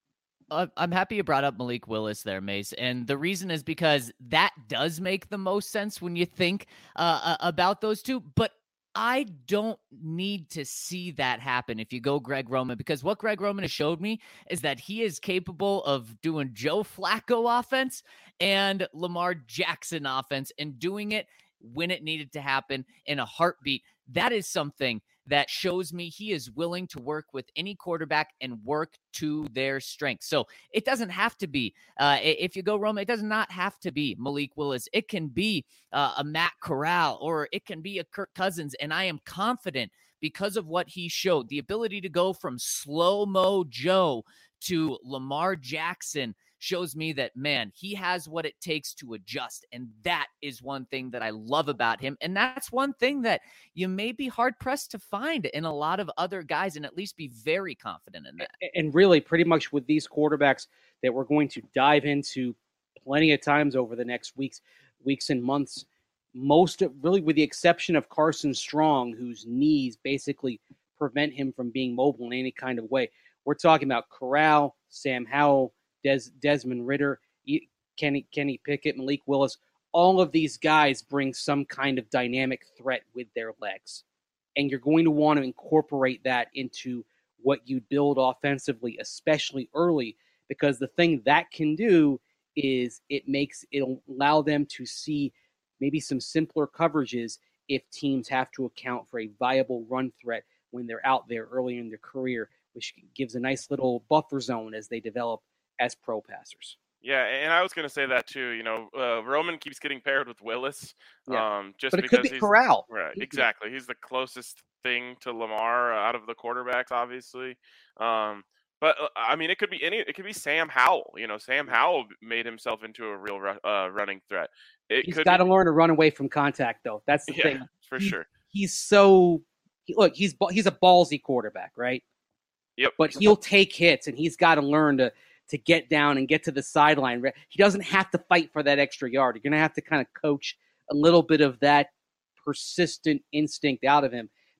Uh, I'm happy you brought up Malik Willis there, Mace. And the reason is because that does make the most sense when you think uh, uh, about those two. But I don't need to see that happen if you go Greg Roman, because what Greg Roman has showed me is that he is capable of doing Joe Flacco offense and Lamar Jackson offense and doing it when it needed to happen in a heartbeat. That is something that shows me he is willing to work with any quarterback and work to their strengths. So it doesn't have to be, uh, if you go Roman, it does not have to be Malik Willis. It can be uh, a Matt Corral, or it can be a Kirk Cousins. And I am confident because of what he showed, the ability to go from slow-mo Joe to Lamar Jackson shows me that, man, he has what it takes to adjust. And that is one thing that I love about him. And that's one thing that you may be hard pressed to find in a lot of other guys, and at least be very confident in that. And really, pretty much with these quarterbacks that we're going to dive into plenty of times over the next weeks, weeks and months, most of, really with the exception of Carson Strong, whose knees basically prevent him from being mobile in any kind of way. We're talking about Corral, Sam Howell, Des, Desmond Ridder, Kenny Kenny Pickett, Malik Willis. All of these guys bring some kind of dynamic threat with their legs. And you're going to want to incorporate that into what you build offensively, especially early, because the thing that can do is it makes it'll allow them to see maybe some simpler coverages if teams have to account for a viable run threat when they're out there early in their career, which gives a nice little buffer zone as they develop as pro passers. Yeah, and I was going to say that too. You know, uh, Roman keeps getting paired with Willis, Yeah. um, just But it because could be he's Corral. right. He- Exactly, he's the closest thing to Lamar out of the quarterbacks, obviously. Um, but uh, I mean, it could be any. It could be Sam Howell. You know, Sam Howell made himself into a real ru- uh, running threat. It He's could got to be, learn to run away from contact, though. That's the yeah, thing. for He- sure. He's so he, look. He's ba- he's a ballsy quarterback, right? Yep. But he'll take hits, and he's got to learn to to get down and get to the sideline. He doesn't have to fight for that extra yard. You're going to have to kind of coach a little bit of that persistent instinct out of him.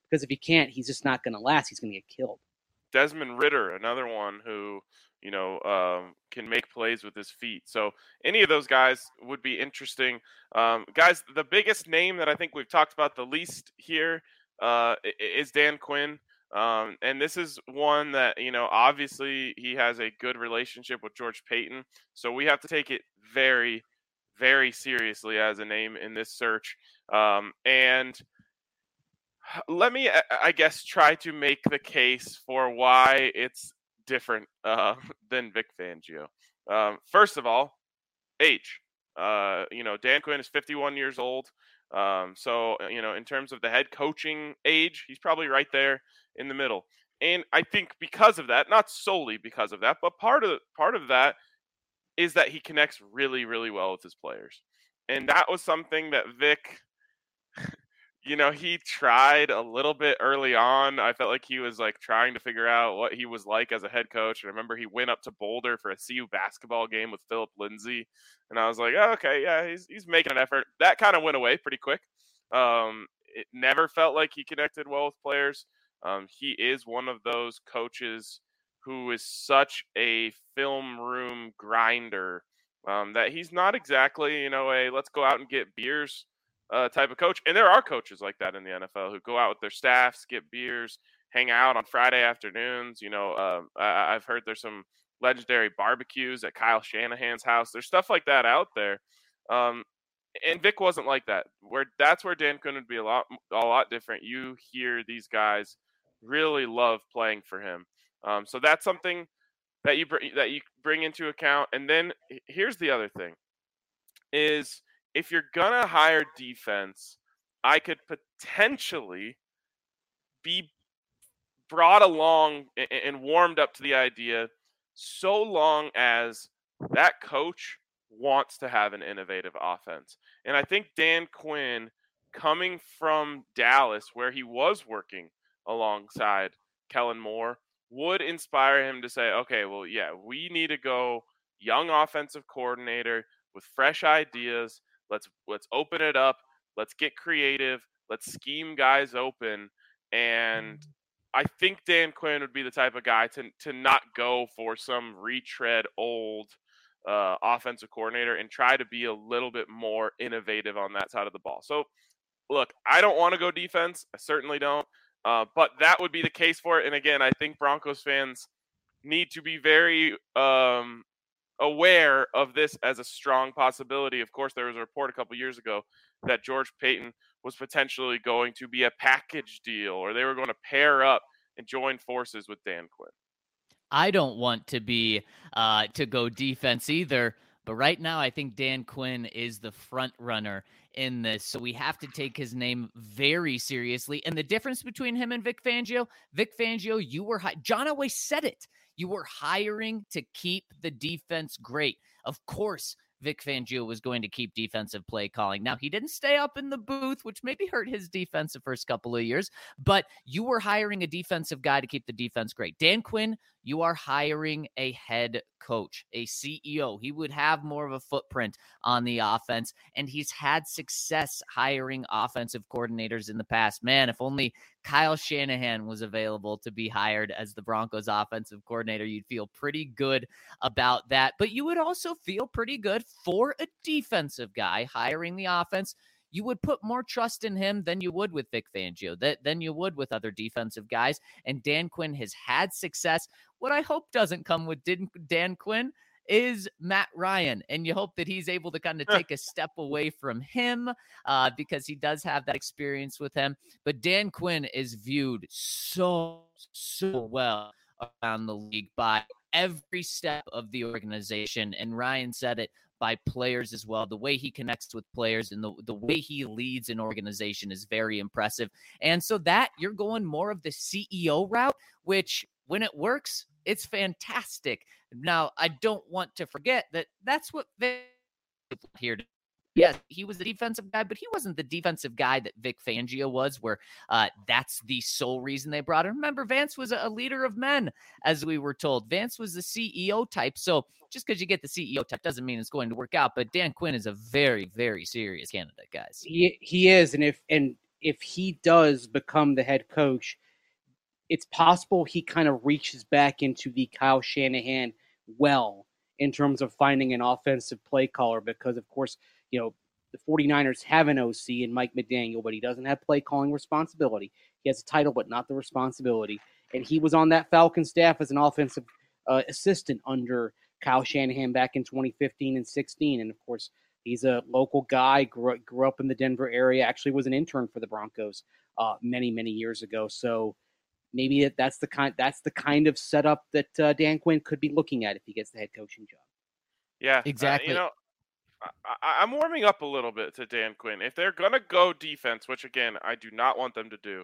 because if he can't, he's just not going to last. He's going to get killed. Desmond Ridder, another one who, you know, um, can make plays with his feet. So any of those guys would be interesting. Um, guys, the biggest name that I think we've talked about the least here uh, is Dan Quinn. Um, and this is one that, you know, obviously he has a good relationship with George Paton. So we have to take it very, very seriously as a name in this search. Um, and let me, I guess, try to make the case for why it's different uh, than Vic Fangio. Um, first of all, age. Uh, you know, Dan Quinn is fifty-one years old. Um, so, you know, in terms of the head coaching age, he's probably right there in the middle. And I think because of that, not solely because of that, but part of part of that is that he connects really, really well with his players. And that was something that Vic, you know, he tried a little bit early on. I felt like he was like trying to figure out what he was like as a head coach. I remember he went up to Boulder for a C U basketball game with Philip Lindsay. And I was like, oh, okay, yeah, he's he's making an effort. That kind of went away pretty quick. Um, it never felt like he connected well with players. Um, he is one of those coaches who is such a film room grinder um, that he's not exactly, you know, a let's go out and get beers Uh, type of coach. And there are coaches like that in the N F L who go out with their staffs, get beers, hang out on Friday afternoons. You know, uh, I, I've heard there's some legendary barbecues at Kyle Shanahan's house. There's stuff like that out there. Um, and Vic wasn't like that. Where that's where Dan Quinn would be a lot, a lot different. You hear these guys really love playing for him. Um, so that's something that you br- that you bring into account. And then here's the other thing: is if you're going to hire defense, I could potentially be brought along and warmed up to the idea so long as that coach wants to have an innovative offense. And I think Dan Quinn, coming from Dallas, where he was working alongside Kellen Moore, would inspire him to say, okay, well, yeah, we need to go young offensive coordinator with fresh ideas. Let's let's open it up. Let's get creative. Let's scheme guys open. And I think Dan Quinn would be the type of guy to to not go for some retread old uh, offensive coordinator and try to be a little bit more innovative on that side of the ball. So, look, I don't want to go defense. I certainly don't. Uh, but that would be the case for it. And again, I think Broncos fans need to be very um, aware of this as a strong possibility. Of course, there was a report a couple years ago that George Paton was potentially going to be a package deal, or they were going to pair up and join forces with Dan Quinn. I don't want to be uh, to go defense either, but right now I think Dan Quinn is the front runner in this, so we have to take his name very seriously. And the difference between him and Vic Fangio, Vic Fangio, you were hi- John always said it. You were hiring to keep the defense great. Of course, Vic Fangio was going to keep defensive play calling. Now, he didn't stay up in the booth, which maybe hurt his defense the first couple of years, but you were hiring a defensive guy to keep the defense great. Dan Quinn, you are hiring a head coach, a C E O. He would have more of a footprint on the offense, and he's had success hiring offensive coordinators in the past. Man, if only Kyle Shanahan was available to be hired as the Broncos offensive coordinator, you'd feel pretty good about that. But you would also feel pretty good for a defensive guy hiring the offense. You would put more trust in him than you would with Vic Fangio, that than you would with other defensive guys. And Dan Quinn has had success. What I hope doesn't come with Dan Quinn is Matt Ryan, and you hope that he's able to kind of take a step away from him uh, because he does have that experience with him. But Dan Quinn is viewed so, so well around the league by every step of the organization. And Ryan said it, by players as well. The way he connects with players and the, the way he leads an organization is very impressive. And so that you're going more of the C E O route, which when it works, it's fantastic. Now, I don't want to forget that that's what Vic here to. Yes, he was the defensive guy, but he wasn't the defensive guy that Vic Fangio was, where uh, that's the sole reason they brought him. Remember, Vance was a leader of men, as we were told. Vance was the C E O type. So just because you get the C E O type doesn't mean it's going to work out. But Dan Quinn is a very, very serious candidate, guys. He he is, and if and if he does become the head coach, it's possible he kind of reaches back into the Kyle Shanahan well in terms of finding an offensive play caller because, of course, you know, the 49ers have an O C in Mike McDaniel, but he doesn't have play calling responsibility. He has a title, but not the responsibility. And he was on that Falcon staff as an offensive uh, assistant under Kyle Shanahan back in twenty fifteen and sixteen. And, of course, he's a local guy, grew, grew up in the Denver area, actually was an intern for the Broncos uh, many, many years ago. So maybe that's the kind that's the kind of setup that uh, Dan Quinn could be looking at if he gets the head coaching job. Yeah, exactly. Uh, you know, I, I'm warming up a little bit to Dan Quinn. If they're gonna go defense, which again I do not want them to do,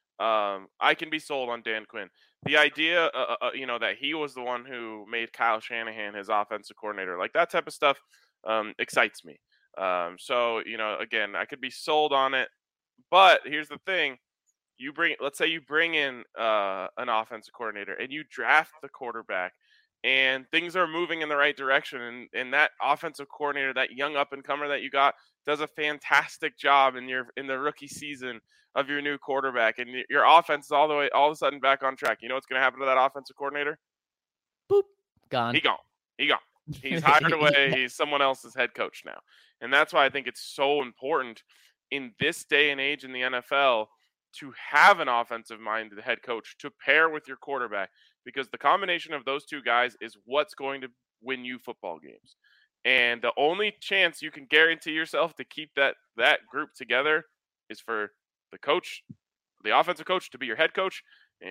um, I can be sold on Dan Quinn. The idea, uh, uh, you know, that he was the one who made Kyle Shanahan his offensive coordinator, like that type of stuff, um, excites me. Um, so you know, again, I could be sold on it. But here's the thing. You bring, let's say you bring in uh, an offensive coordinator and you draft the quarterback and things are moving in the right direction. And, and that offensive coordinator, that young up and comer that you got does a fantastic job in your, in the rookie season of your new quarterback. And your offense is all the way, all of a sudden back on track. You know what's going to happen to that offensive coordinator? Boop. Gone. He gone. He gone. He's hired away. He's someone else's head coach now. And that's why I think it's so important in this day and age in the N F L to have an offensive-minded head coach to pair with your quarterback, because the combination of those two guys is what's going to win you football games. And the only chance you can guarantee yourself to keep that that group together is for the coach, the offensive coach, to be your head coach,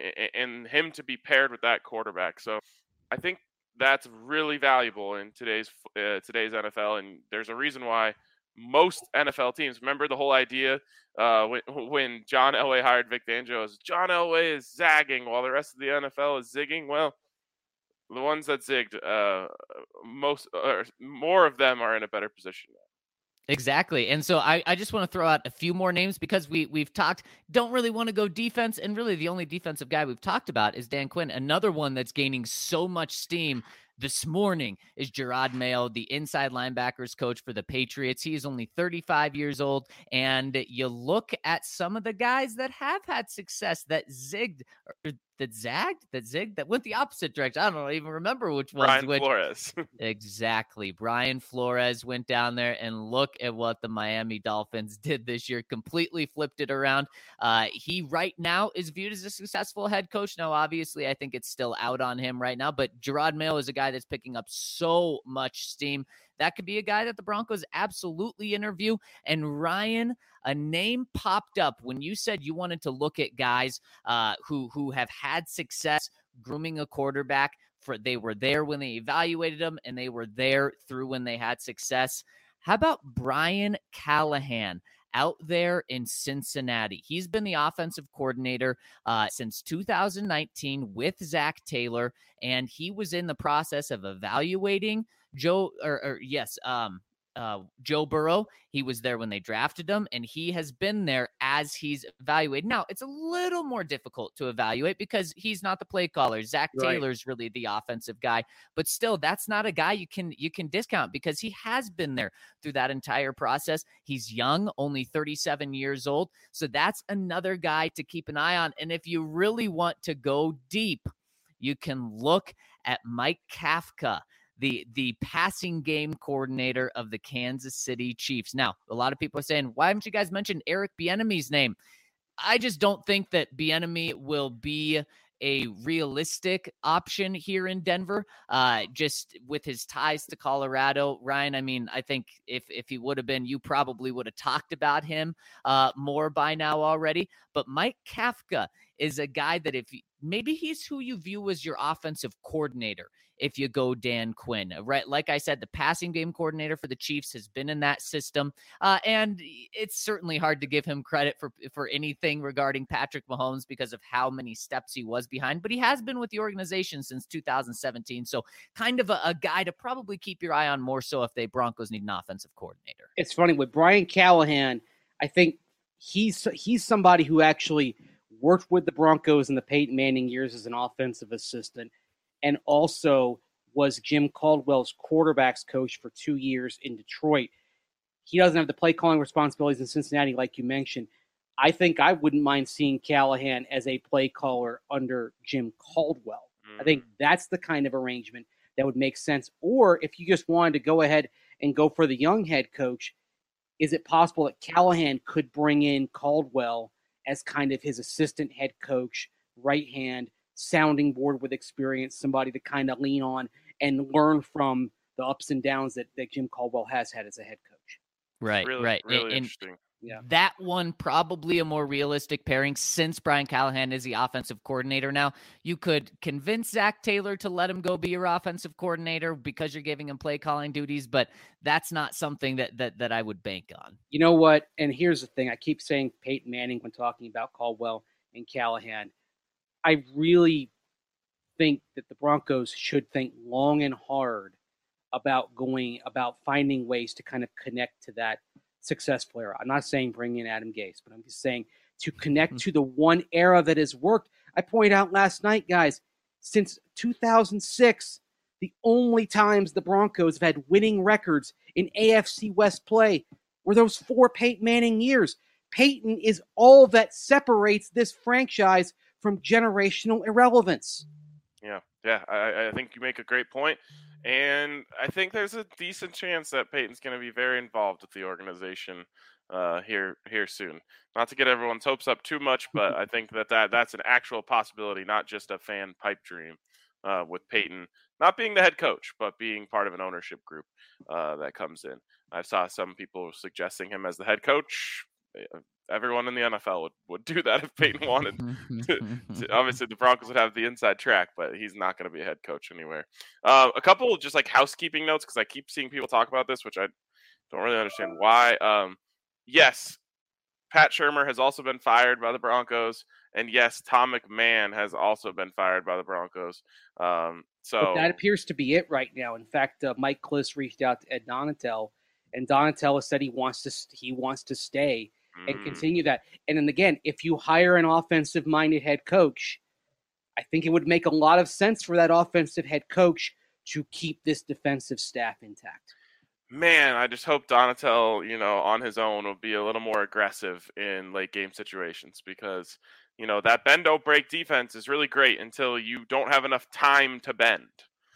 and him to be paired with that quarterback. So I think that's really valuable in today's uh, today's N F L, and there's a reason why most N F L teams, remember the whole idea uh, when, when John Elway hired Vic Fangio, is John Elway is zagging while the rest of the N F L is zigging. Well, the ones that zigged, uh, most or more of them are in a better position now. Exactly. And so I, I just want to throw out a few more names because we, we've talked, don't really want to go defense. And really the only defensive guy we've talked about is Dan Quinn. Another one that's gaining so much steam this morning is Jerod Mayo, the inside linebackers coach for the Patriots. He is only thirty-five years old. And you look at some of the guys that have had success that zigged, or that zagged, that zigged, that went the opposite direction. I don't even remember which one. Brian which. Flores. Exactly. Brian Flores went down there and look at what the Miami Dolphins did this year. Completely flipped it around. Uh, he right now is viewed as a successful head coach. Now, obviously, I think it's still out on him right now, but Jerod Mayo is a guy that's picking up so much steam. That could be a guy that the Broncos absolutely interview. And Ryan, a name popped up when you said you wanted to look at guys uh, who who have had success grooming a quarterback. For they were there when they evaluated them, and they were there through when they had success. How about Brian Callahan out there in Cincinnati? He's been the offensive coordinator uh, since two thousand nineteen with Zach Taylor, and he was in the process of evaluating Joe, or, or yes, um, uh, Joe Burrow. He was there when they drafted him, and he has been there as he's evaluated. Now, it's a little more difficult to evaluate because he's not the play caller. Zach Right. Taylor's really the offensive guy, but still, that's not a guy you can you can discount because he has been there through that entire process. He's young, only thirty-seven years old, so that's another guy to keep an eye on. And if you really want to go deep, you can look at Mike Kafka, the the passing game coordinator of the Kansas City Chiefs. Now, a lot of people are saying, why haven't you guys mentioned Eric Bieniemy's name? I just don't think that Bieniemy will be a realistic option here in Denver, uh, just with his ties to Colorado. Ryan, I mean, I think if, if he would have been, you probably would have talked about him uh, more by now already. But Mike Kafka is a guy that if you, maybe he's who you view as your offensive coordinator if you go Dan Quinn, right? Like I said, the passing game coordinator for the Chiefs has been in that system. Uh, and it's certainly hard to give him credit for, for anything regarding Patrick Mahomes because of how many steps he was behind, but he has been with the organization since two thousand seventeen. So kind of a, a guy to probably keep your eye on more so if they Broncos need an offensive coordinator. It's funny with Brian Callahan, I think he's, he's somebody who actually worked with the Broncos in the Peyton Manning years as an offensive assistant, and also was Jim Caldwell's quarterbacks coach for two years in Detroit. He doesn't have the play calling responsibilities in Cincinnati, like you mentioned, I think I wouldn't mind seeing Callahan as a play caller under Jim Caldwell. Mm. I think that's the kind of arrangement that would make sense. Or if you just wanted to go ahead and go for the young head coach, is it possible that Callahan could bring in Caldwell as kind of his assistant head coach, right hand, sounding board with experience, somebody to kind of lean on and learn from the ups and downs that, that Jim Caldwell has had as a head coach? Right, really, right. Really and, interesting. Yeah. That one probably a more realistic pairing since Brian Callahan is the offensive coordinator now. You could convince Zach Taylor to let him go be your offensive coordinator because you're giving him play calling duties, but that's not something that that that I would bank on. You know what? And here's the thing. I keep saying Peyton Manning when talking about Caldwell and Callahan. I really think that the Broncos should think long and hard about going about finding ways to kind of connect to that successful era. I'm not saying bring in Adam Gase, but I'm just saying to connect to the one era that has worked. I pointed out last night, guys, since two thousand six, the only times the Broncos have had winning records in A F C West play were those four Peyton Manning years. Peyton is all that separates this franchise from generational irrelevance. Yeah, yeah, I, I think you make a great point. And I think there's a decent chance that Peyton's going to be very involved with the organization uh, here here soon. Not to get everyone's hopes up too much, but I think that, that that's an actual possibility, not just a fan pipe dream uh, with Peyton not being the head coach, but being part of an ownership group uh, that comes in. I saw some people suggesting him as the head coach. Everyone in the N F L would, would do that if Peyton wanted. to, to, obviously, the Broncos would have the inside track, but he's not going to be a head coach anywhere. Uh, a couple just like housekeeping notes, because I keep seeing people talk about this, which I don't really understand why. Um, yes, Pat Shurmur has also been fired by the Broncos, and yes, Tom McMahon has also been fired by the Broncos. Um, so but that appears to be it right now. In fact, uh, Mike Kliss reached out to Ed Donatel, and Donatel said he wants to he wants to stay and continue that. And then again, if you hire an offensive-minded head coach, I think it would make a lot of sense for that offensive head coach to keep this defensive staff intact. Man, I just hope Donatel, you know, on his own will be a little more aggressive in late game situations, because, you know, that bend don't break defense is really great until you don't have enough time to bend,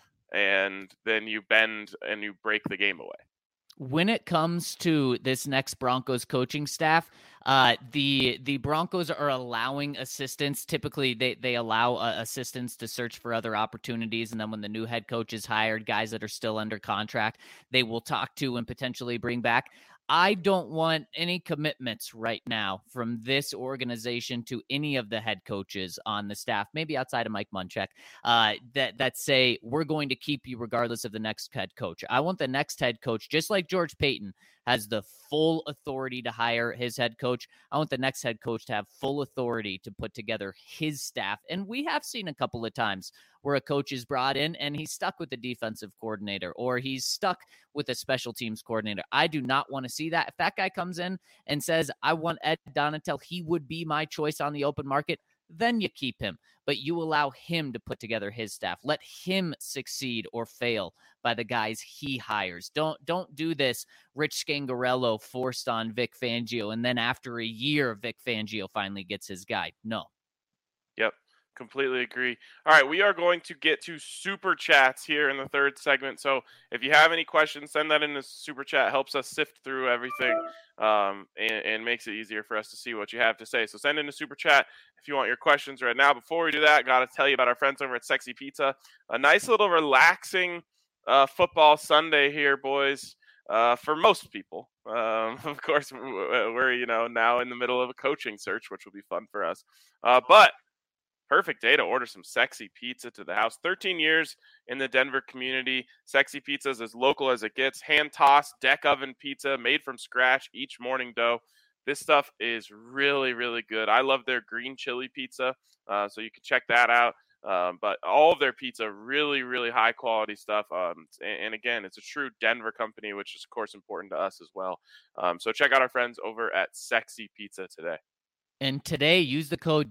and then you bend and you break the game away. When it comes to this next Broncos coaching staff, uh, the the Broncos are allowing assistants. Typically, they, they allow uh, assistants to search for other opportunities. And then when the new head coach is hired, guys that are still under contract, they will talk to and potentially bring back. I don't want any commitments right now from this organization to any of the head coaches on the staff, maybe outside of Mike Munchak, uh, that, that say, we're going to keep you regardless of the next head coach. I want the next head coach, just like George Paton has the full authority to hire his head coach. I want the next head coach to have full authority to put together his staff. And we have seen a couple of times where a coach is brought in and he's stuck with the defensive coordinator, or he's stuck with a special teams coordinator. I do not want to see that. If that guy comes in and says, I want Ed Donatel, he would be my choice on the open market, then you keep him. But you allow him to put together his staff. Let him succeed or fail by the guys he hires. Don't don't do this Rich Scangarello forced on Vic Fangio, and then after a year, Vic Fangio finally gets his guy. No. Yep. Completely agree. All right, we are going to get to super chats here in the third segment. So if you have any questions, send that in the super chat. Helps us sift through everything um, and, and makes it easier for us to see what you have to say. So send in a super chat if you want your questions right now. Before we do that, got to tell you about our friends over at Sexy Pizza. A nice little relaxing uh, football Sunday here, boys. Uh, for most people, um, of course, we're you know now in the middle of a coaching search, which will be fun for us. Uh, but perfect day to order some Sexy Pizza to the house. thirteen years in the Denver community. Sexy Pizza is as local as it gets. Hand-tossed, deck oven pizza made from scratch, each morning dough. This stuff is really, really good. I love their green chili pizza, uh, so you can check that out. Um, but all of their pizza, really, really high-quality stuff. Um, and, and, again, it's a true Denver company, which is, of course, important to us as well. Um, so check out our friends over at Sexy Pizza today. And today, use the code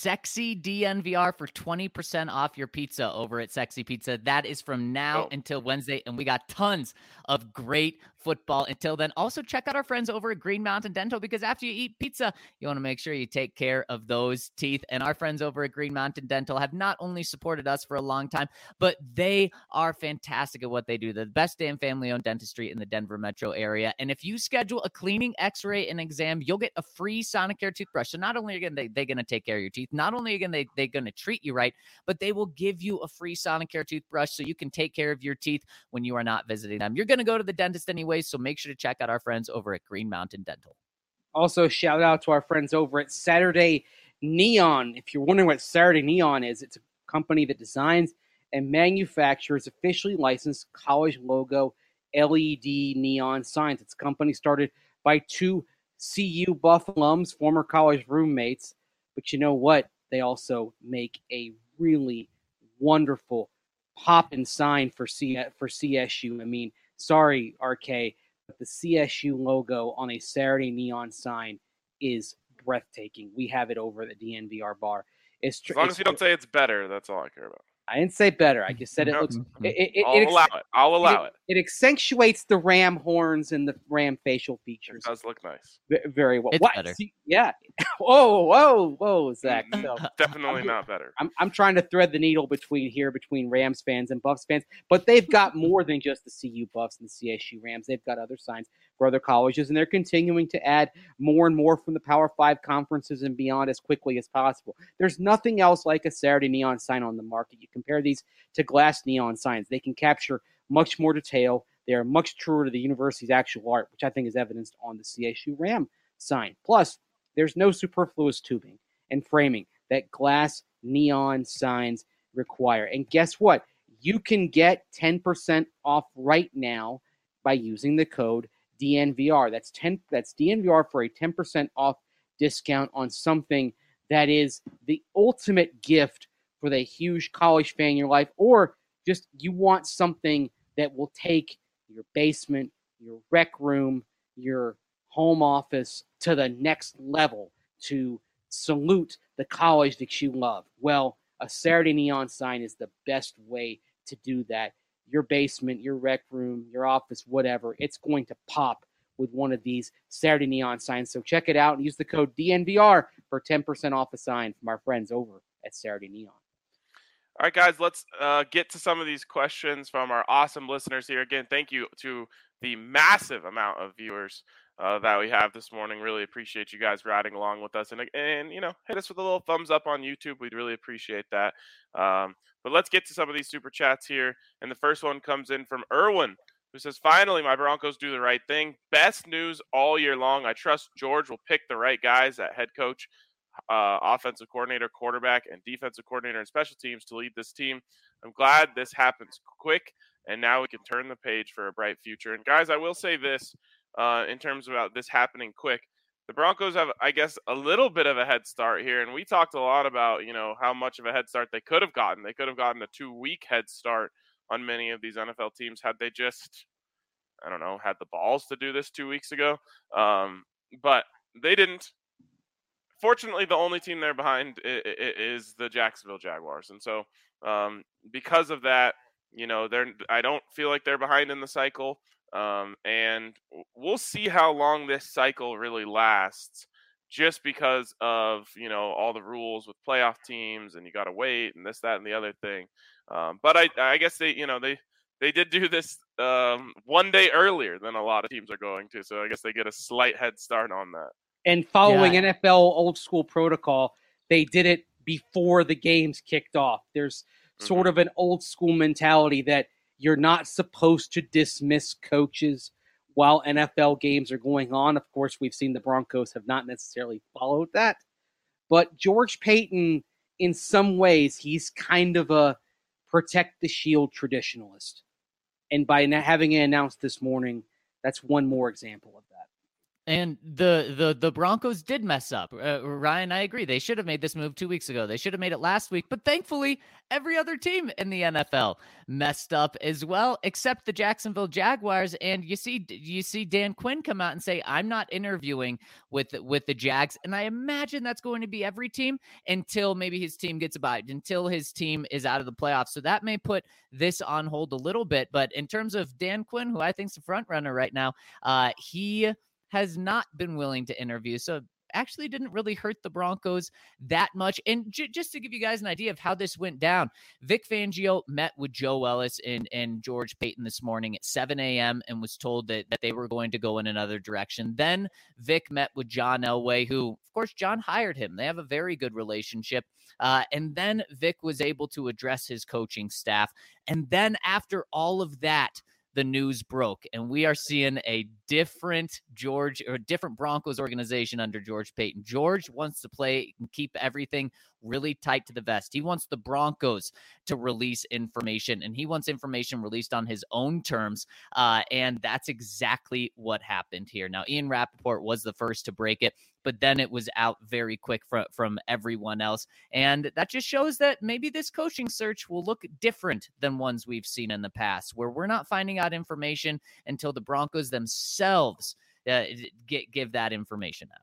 SEXYDNVR for twenty percent off your pizza over at Sexy Pizza. That is from now oh. until Wednesday, and we got tons of great football. Until then, also check out our friends over at Green Mountain Dental, because after you eat pizza, you want to make sure you take care of those teeth. And our friends over at Green Mountain Dental have not only supported us for a long time, but they are fantastic at what they do. They're the best damn family-owned dentistry in the Denver metro area. And if you schedule a cleaning, x-ray, and exam, you'll get a free Sonicare toothbrush. So not only are they, they going to take care of your teeth, not only again they, they're going to treat you right, but they will give you a free Sonicare toothbrush so you can take care of your teeth when you are not visiting them. You're going to go to the dentist anyway, so make sure to check out our friends over at Green Mountain Dental. Also, shout out to our friends over at Saturday Neon. If you're wondering what Saturday Neon is, it's a company that designs and manufactures officially licensed college logo L E D neon signs. It's a company started by two C U Buff alums, former college roommates. But you know what? They also make a really wonderful poppin' sign for C for C S U. I mean, sorry, R K, but the C S U logo on a Saturday Neon sign is breathtaking. We have it over at the D N V R bar. It's tr- As long it's, as you don't say it's better, that's all I care about. I didn't say better. I just said it No, looks. It, it, I'll it, allow it. I'll allow it. It, it accentuates the ram horns and the ram facial features. It does look nice. V- very well. It's What? better. See, yeah. Whoa, whoa, whoa, Zach. So, Definitely I'm- not better. I'm I'm trying to thread the needle between here between Rams fans and Buffs fans, but they've got more than just the C U Buffs and the C S U Rams. They've got other signs for other colleges, and they're continuing to add more and more from the Power Five conferences and beyond as quickly as possible. There's nothing else like a Saturday Neon sign on the market. You compare these to glass neon signs. They can capture much more detail. They are much truer to the university's actual art, which I think is evidenced on the C S U Ram sign. Plus, there's no superfluous tubing and framing that glass neon signs require. And guess what? You can get ten percent off right now by using the code D N V R. That's ten. That's D N V R for a ten percent off discount on something that is the ultimate gift for the huge college fan in your life, or just you want something that will take your basement, your rec room, your home office to the next level to salute the college that you love. Well, a Saturday Neon sign is the best way to do that. Your basement, your rec room, your office, whatever, it's going to pop with one of these Saturday Neon signs. So check it out and use the code D N V R for ten percent off a sign from our friends over at Saturday Neon. All right, guys, let's uh, get to some of these questions from our awesome listeners here. Again, thank you to the massive amount of viewers uh, that we have this morning. Really appreciate you guys riding along with us. And, and, you know, hit us with a little thumbs up on YouTube. We'd really appreciate that. Um, but let's get to some of these super chats here. And the first one comes in from Erwin, who says, finally, my Broncos do the right thing. Best news all year long. I trust George will pick the right guys at head coach, Uh, offensive coordinator, quarterback, and defensive coordinator and special teams to lead this team. I'm glad this happens quick, and now we can turn the page for a bright future. And guys, I will say this uh, in terms of this happening quick. The Broncos have, I guess, a little bit of a head start here, and we talked a lot about, you know, how much of a head start they could have gotten. They could have gotten a two-week head start on many of these N F L teams had they just, I don't know, had the balls to do this two weeks ago. Um, but they didn't. Fortunately, the only team they're behind is the Jacksonville Jaguars. And so um, because of that, you know, they're I don't feel like they're behind in the cycle. Um, and we'll see how long this cycle really lasts just because of, you know, all the rules with playoff teams and you got to wait and this, that, and the other thing. Um, but I, I guess they, you know, they, they did do this um, one day earlier than a lot of teams are going to. So I guess they get a slight head start on that. And following Yeah. N F L old school protocol, they did it before the games kicked off. There's mm-hmm. sort of an old school mentality that you're not supposed to dismiss coaches while N F L games are going on. Of course, we've seen the Broncos have not necessarily followed that. But George Paton, in some ways, he's kind of a protect the shield traditionalist. And by having it announced this morning, that's one more example of that. And the the the Broncos did mess up. Uh, Ryan, I agree. They should have made this move two weeks ago. They should have made it last week. But thankfully, every other team in the N F L messed up as well, except the Jacksonville Jaguars. And you see, you see Dan Quinn come out and say, "I'm not interviewing with with the Jags." And I imagine that's going to be every team until maybe his team gets a bye, until his team is out of the playoffs. So that may put this on hold a little bit. But in terms of Dan Quinn, who I think is the front runner right now, uh, he has not been willing to interview. So actually didn't really hurt the Broncos that much. And j- just to give you guys an idea of how this went down, Vic Fangio met with Joe Ellis and, and George Paton this morning at seven a.m. and was told that, that they were going to go in another direction. Then Vic met with John Elway, who, of course, John hired him. They have a very good relationship. Uh, and then Vic was able to address his coaching staff. And then after all of that, the news broke, and we are seeing a different George or different Broncos organization under George Paton. George wants to play and keep everything really tight to the vest. He wants the Broncos to release information, and he wants information released on his own terms. Uh, and that's exactly what happened here. Now, Ian Rappaport was the first to break it, but then it was out very quick from, from everyone else. And that just shows that maybe this coaching search will look different than ones we've seen in the past, where we're not finding out information until the Broncos themselves uh, get, give that information out.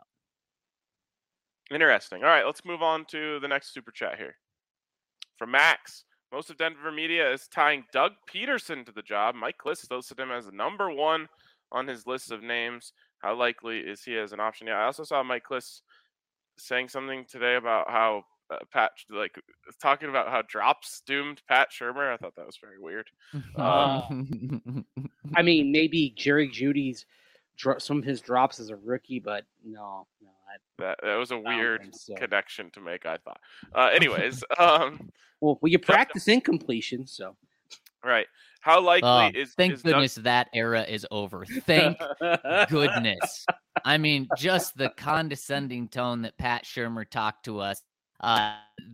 Interesting. All right, let's move on to the next super chat here. From Max, most of Denver media is tying Doug Peterson to the job. Mike Klis listed him as the number one on his list of names. How likely is he as an option? Yeah, I also saw Mike Klis saying something today about how uh, Pat, like, talking about how drops doomed Pat Shurmur. I thought that was very weird. Uh, Um, I mean, maybe Jerry Judy's dro- some of his drops as a rookie, but no, no. I, that that was a don't weird think so. connection to make, I thought. Uh, anyways, um, well, well, you practice incompletion, so. right. How likely Oh, is thank is Doug- goodness that era is over. Thank goodness. I mean, just the condescending tone that Pat Shurmur talked to us uh,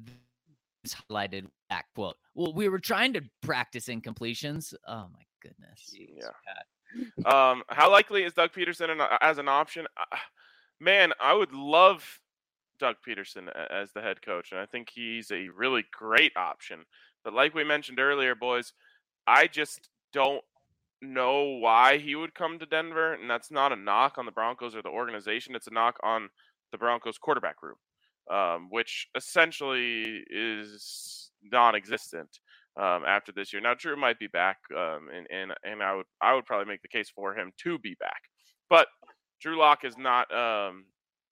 is highlighted that quote. Well, we were trying to practice incompletions. Oh, my goodness. Jeez, Yeah. Pat. Um, how likely is Doug Peterson an, as an option? Uh, man, I would love Doug Peterson a- as the head coach, and I think he's a really great option. But like we mentioned earlier, boys, I just don't know why he would come to Denver, and that's not a knock on the Broncos or the organization. It's a knock on the Broncos quarterback room, um, which essentially is non-existent um, after this year. Now, Drew might be back, um, and and and I would I would probably make the case for him to be back, but Drew Lock is not um,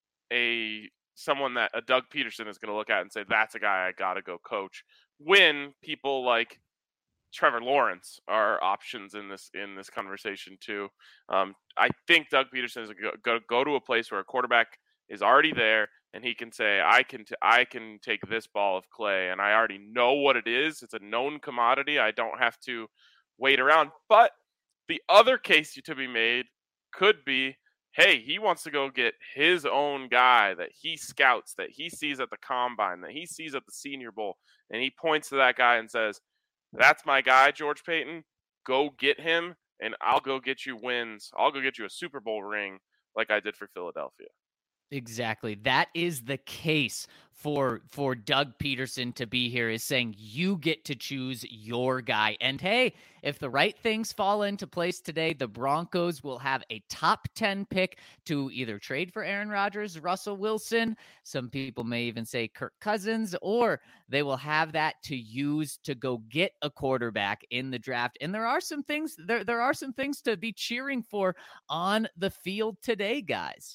a someone that a Doug Peterson is going to look at and say that's a guy I got to go coach. When people like Trevor Lawrence are options in this in this conversation too. Um, I think Doug Peterson is going to go, go to a place where a quarterback is already there and he can say, I can t- I can take this ball of clay and I already know what it is. It's a known commodity. I don't have to wait around. But the other case to be made could be, hey, he wants to go get his own guy that he scouts, that he sees at the combine, that he sees at the Senior Bowl, and he points to that guy and says, that's my guy, George Paton. Go get him, and I'll go get you wins. I'll go get you a Super Bowl ring like I did for Philadelphia. Exactly. That is the case for for Doug Peterson to be here, is saying you get to choose your guy. And hey, if the right things fall into place today, the Broncos will have a top ten pick to either trade for Aaron Rodgers, Russell Wilson, some people may even say Kirk Cousins, or they will have that to use to go get a quarterback in the draft. And there are some things there there are some things to be cheering for on the field today, guys.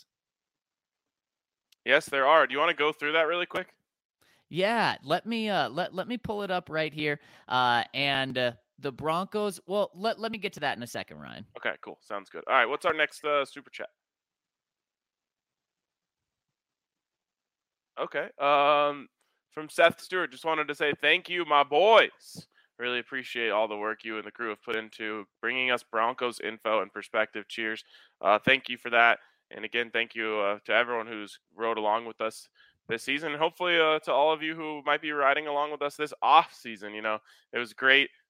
Yes, there are. Do you want to go through that really quick? Yeah, let me uh let let me pull it up right here. Uh and uh, the Broncos, well, let let me get to that in a second, Ryan. Okay, cool. Sounds good. All right, what's our next uh, super chat? Okay. Um from Seth Stewart, just wanted to say thank you, my boys. Really appreciate all the work you and the crew have put into bringing us Broncos info and perspective. Cheers. Uh thank you for that. And again, thank you uh, to everyone who's rode along with us this season. And hopefully uh, to all of you who might be riding along with us this off season. You know, it was great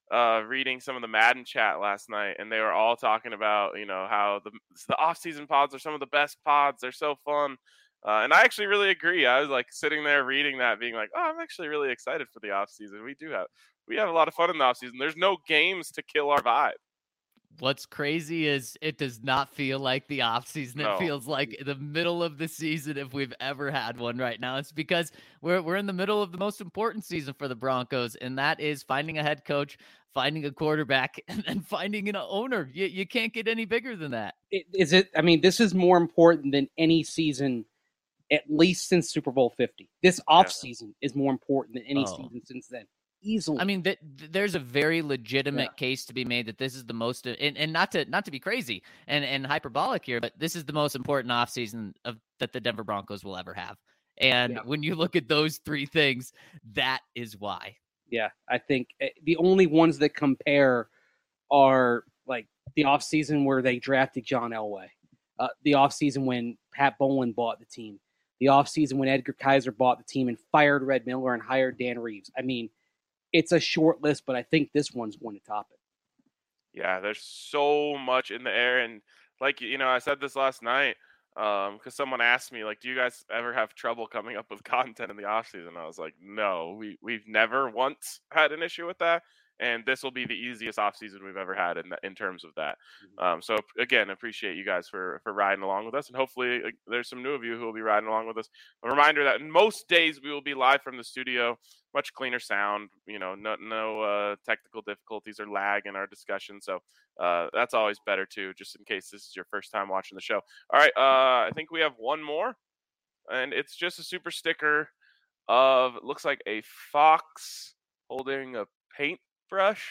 uh, reading some of the Madden chat last night, and they were all talking about, you know, how the the off-season pods are some of the best pods. They're so fun. Uh, and I actually really agree. I was like sitting there reading that, being like, oh, I'm actually really excited for the off-season. We do have we have a lot of fun in the off-season. There's no games to kill our vibe. What's crazy is it does not feel like the offseason. No. It feels like the middle of the season if we've ever had one right now. It's because we're we're in the middle of the most important season for the Broncos, and that is finding a head coach, finding a quarterback, and then finding an owner. You, you can't get any bigger than that. It, is it? I mean, this is more important than any season, at least since Super Bowl fifty. This offseason yeah. is more important than any oh. season since then. Easily. I mean, th- th- there's a very legitimate yeah. case to be made that this is the most, and, and not to not to be crazy and, and hyperbolic here, but this is the most important offseason of that the Denver Broncos will ever have. And yeah. when you look at those three things, that is why. Yeah, I think the only ones that compare are like the offseason where they drafted John Elway, uh, the offseason when Pat Bowlen bought the team, the offseason when Edgar Kaiser bought the team and fired Red Miller and hired Dan Reeves. I mean, it's a short list, but I think this one's going to top it. Yeah, there's so much in the air. And like, you know, I said this last night um, because someone asked me, like, do you guys ever have trouble coming up with content in the offseason? I was like, no, we, we've never once had an issue with that. And this will be the easiest offseason we've ever had in in terms of that. Um, so, again, appreciate you guys for, for riding along with us. And hopefully uh, there's some new of you who will be riding along with us. A reminder that in most days we will be live from the studio, much cleaner sound, you know, no, no uh, technical difficulties or lag in our discussion. So uh, that's always better, too, just in case this is your first time watching the show. All right, uh, I think we have one more. And it's just a super sticker of, looks like a fox holding a paint brush.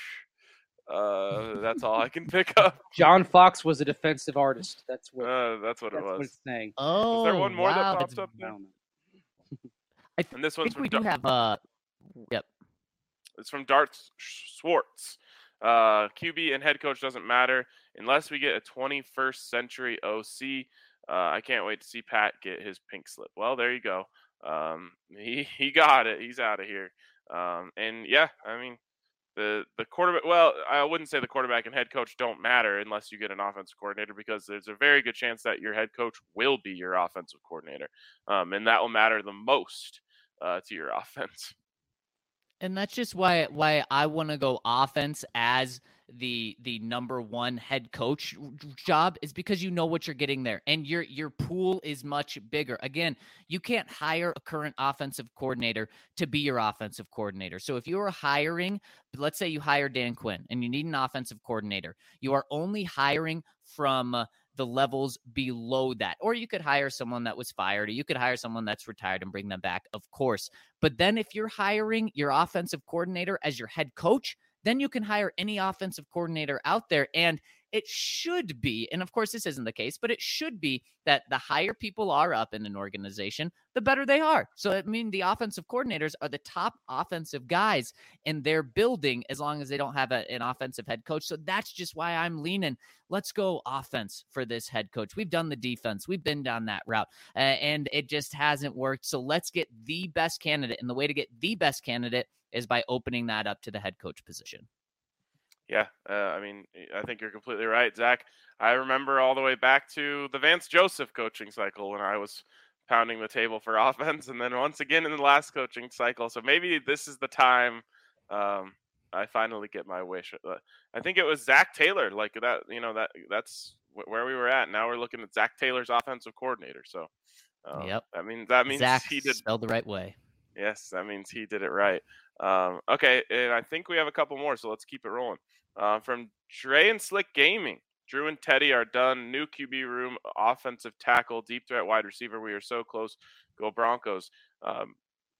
Uh, that's all I can pick up. John Fox was a defensive artist. That's what. Uh, that's what that's it was. What it's saying. Oh, is there one more wow. that pops up there? I th- and this one's think we from do Dar- have. Uh, yep. It's from Dart Swartz. Uh, Q B and head coach doesn't matter unless we get a twenty-first century O C. Uh, I can't wait to see Pat get his pink slip. Well, there you go. Um, he he got it. He's out of here. Um, and yeah, I mean. The the quarterback, well, I wouldn't say the quarterback and head coach don't matter unless you get an offensive coordinator, because there's a very good chance that your head coach will be your offensive coordinator, um, and that will matter the most uh, to your offense. And that's just why why I want to go offense as the the number one head coach job, is because you know what you're getting there, and your your pool is much bigger. Again, you can't hire a current offensive coordinator to be your offensive coordinator. So if you're hiring, let's say you hire Dan Quinn and you need an offensive coordinator, you are only hiring from uh, the levels below that. Or you could hire someone that was fired, or you could hire someone that's retired and bring them back, of course. But then if you're hiring your offensive coordinator as your head coach, then you can hire any offensive coordinator out there. And it should be, and of course this isn't the case, but it should be that the higher people are up in an organization, the better they are. So I mean, the offensive coordinators are the top offensive guys in their building, as long as they don't have a, an offensive head coach. So that's just why I'm leaning, let's go offense for this head coach. We've done the defense. We've been down that route, uh, and it just hasn't worked. So let's get the best candidate. And the way to get the best candidate is by opening that up to the head coach position. Yeah, uh, I mean, I think you're completely right, Zach. I remember all the way back to the Vance Joseph coaching cycle when I was pounding the table for offense, and then once again in the last coaching cycle. So maybe this is the time um, I finally get my wish. I think it was Zach Taylor, like that. You know, that that's where we were at. Now we're looking at Zach Taylor's offensive coordinator. So, um, yep, I mean that means Zach he did spelled the right way. Yes, that means he did it right. Um, okay, and I think we have a couple more, so let's keep it rolling. Uh, from Dre and Slick Gaming, Drew and Teddy are done. New Q B room, offensive tackle, deep threat wide receiver. We are so close. Go Broncos. Um,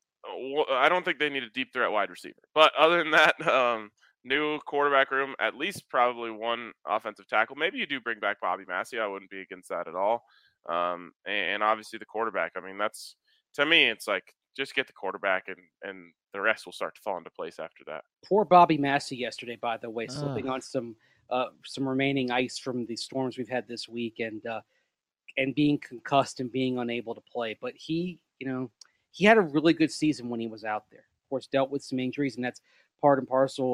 I don't think they need a deep threat wide receiver. But other than that, um, new quarterback room, at least probably one offensive tackle. Maybe you do bring back Bobby Massey. I wouldn't be against that at all. Um, and, and obviously the quarterback. I mean, that's, to me, it's like, just get the quarterback, and, and the rest will start to fall into place after that. Poor Bobby Massey yesterday, by the way, slipping uh. on some uh, some remaining ice from the storms we've had this week, and uh, and being concussed and being unable to play. But he, you know, he had a really good season when he was out there. Of course, dealt with some injuries, and that's part and parcel at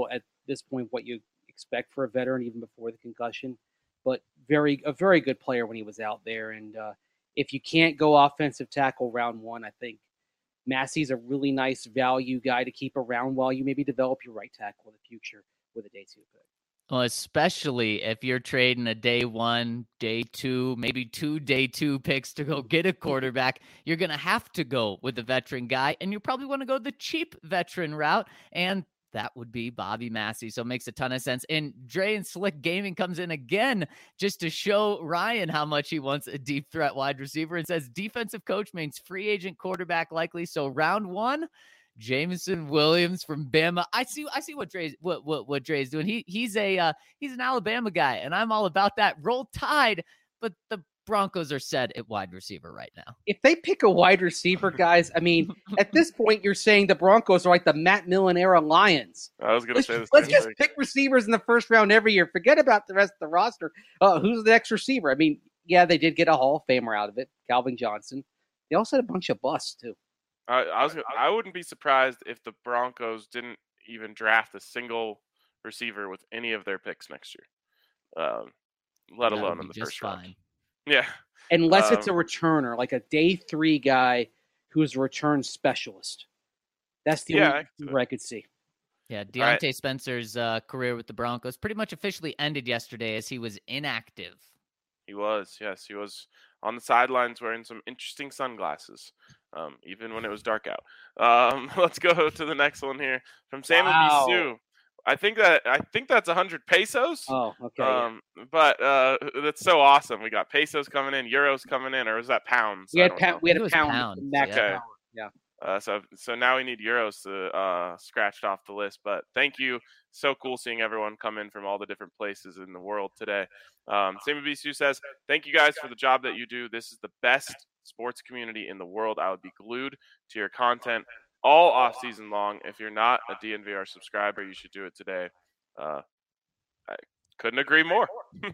this point what you expect for a veteran, even before the concussion. But very a very good player when he was out there. And uh, if you can't go offensive tackle round one, I think Massey's a really nice value guy to keep around while you maybe develop your right tackle in the future with a day two pick. Well, especially if you're trading a day one, day two, maybe two day two picks to go get a quarterback, you're going to have to go with a veteran guy, and you probably want to go the cheap veteran route, and that would be Bobby Massey. So it makes a ton of sense. And Dre and Slick Gaming comes in again just to show Ryan how much he wants a deep threat wide receiver and says defensive coach means free agent quarterback likely. So round one, Jameson Williams from Bama. I see. I see what Dre's what what what Dre's doing. He he's a uh, he's an Alabama guy, and I'm all about that. Roll Tide, but the Broncos are set at wide receiver right now. If they pick a wide receiver, guys, I mean, at this point, you're saying the Broncos are like the Matt Millen era Lions. I was going to say this. Let's just thing. pick receivers in the first round every year. Forget about the rest of the roster. Uh, who's the next receiver? I mean, yeah, they did get a Hall of Famer out of it, Calvin Johnson. They also had a bunch of busts too. Uh, I was. I wouldn't be surprised if the Broncos didn't even draft a single receiver with any of their picks next year, um, let That alone would in the be first just round. fine. Yeah, Unless um, it's a returner, like a day three guy who's a return specialist. That's the yeah, only I, where I could see. Yeah, Deontay right. Spencer's uh, career with the Broncos pretty much officially ended yesterday as he was inactive. He was. Yes, he was on the sidelines wearing some interesting sunglasses, um, even when it was dark out. Um, let's go to the next one here from Sam Wow. Bisu. I think that I think that's one hundred pesos. Oh, okay. Um, but uh, that's so awesome. We got pesos coming in, euros coming in, or was that pounds? We I had don't pa- know. we had It a was pound. pounds, Max yeah. power. Yeah. Uh, so so now we need euros to uh, scratched off the list. But thank you. So cool seeing everyone come in from all the different places in the world today. Um, Sammy Bisu says, thank you guys for the job that you do. This is the best sports community in the world. I would be glued to your content all off season long. If you're not a D N V R subscriber, you should do it today. Uh, I couldn't agree more.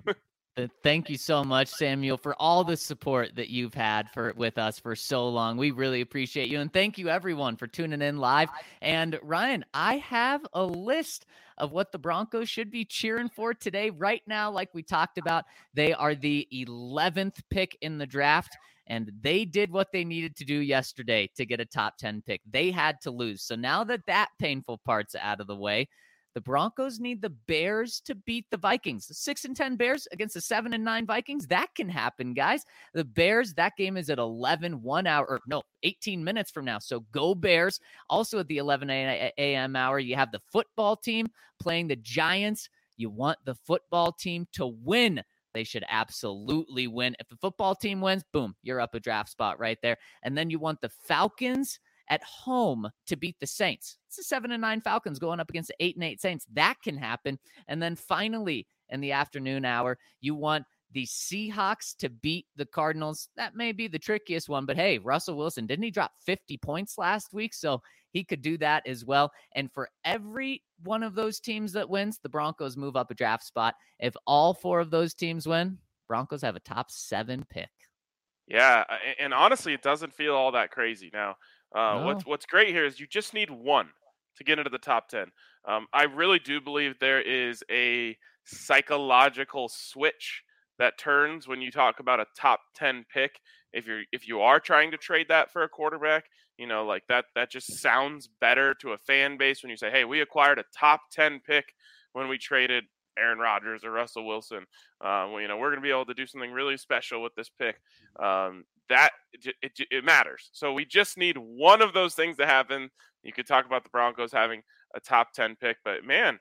Thank you so much, Samuel, for all the support that you've had for with us for so long. We really appreciate you. And thank you, everyone, for tuning in live. And Ryan, I have a list of what the Broncos should be cheering for today. Right now, like we talked about, they are the eleventh pick in the draft. And they did what they needed to do yesterday to get a top ten pick. They had to lose. So now that that painful part's out of the way, the Broncos need the Bears to beat the Vikings. The six and ten Bears against the seven and nine Vikings. That can happen, guys. The Bears, that game is at eleven, one hour, or no, eighteen minutes from now. So go Bears. Also at the eleven a.m. hour, you have the football team playing the Giants. You want the football team to win. They should absolutely win. If the football team wins, boom, you're up a draft spot right there. And then you want the Falcons at home to beat the Saints. It's the seven and nine Falcons going up against the eight and eight Saints. That can happen. And then finally, in the afternoon hour, you want the Seahawks to beat the Cardinals. That may be the trickiest one, but hey, Russell Wilson, didn't he drop fifty points last week? So he could do that as well. And for every one of those teams that wins, the Broncos move up a draft spot. If all four of those teams win, Broncos have a top seven pick. Yeah, and honestly, it doesn't feel all that crazy now. Uh, No. What's what's great here is you just need one to get into the top ten. Um, I really do believe there is a psychological switch that turns when you talk about a top ten pick. If you're if you are trying to trade that for a quarterback, you know, like that that just sounds better to a fan base when you say, "Hey, we acquired a top ten pick when we traded Aaron Rodgers or Russell Wilson. Uh, well, you know, we're going to be able to do something really special with this pick." Um, that it, it, it matters. So we just need one of those things to happen. You could talk about the Broncos having a top ten pick, but man,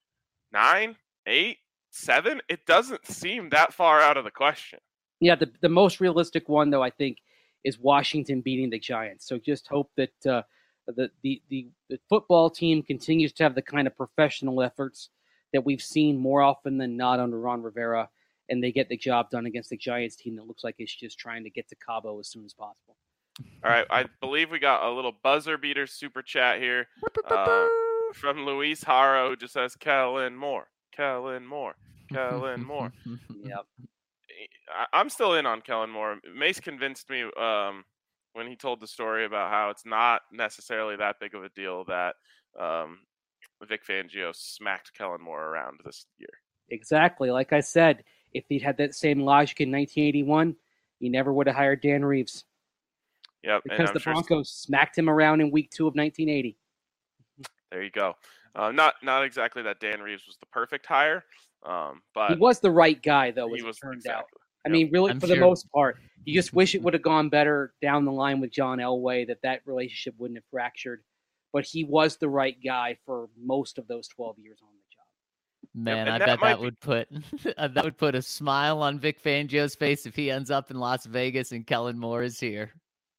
nine, eight, seven, it doesn't seem that far out of the question. Yeah, the, the most realistic one, though, I think, is Washington beating the Giants. So just hope that uh, the, the, the, the football team continues to have the kind of professional efforts that we've seen more often than not under Ron Rivera, and they get the job done against the Giants team that looks like it's just trying to get to Cabo as soon as possible. All right, I believe we got a little buzzer beater super chat here uh, from Luis Haro, who just says, Kellen Moore, Kellen Moore, Kellen Moore. Yep. I, I'm still in on Kellen Moore. Mace convinced me um, when he told the story about how it's not necessarily that big of a deal that um, Vic Fangio smacked Kellen Moore around this year. Exactly. Like I said, if he'd had that same logic in nineteen eighty-one, he never would have hired Dan Reeves. Yep, because the Broncos sure... smacked him around in week two of nineteen eighty. There you go. Uh, not not exactly that Dan Reeves was the perfect hire, um, but he was the right guy, though, as he was, it turned exactly. out. I mean, really, I'm for sure. the most part, you just wish it would have gone better down the line with John Elway, that that relationship wouldn't have fractured. But he was the right guy for most of those twelve years on the job. Man, yep, I that bet that be... would put that would put a smile on Vic Fangio's face if he ends up in Las Vegas and Kellen Moore is here.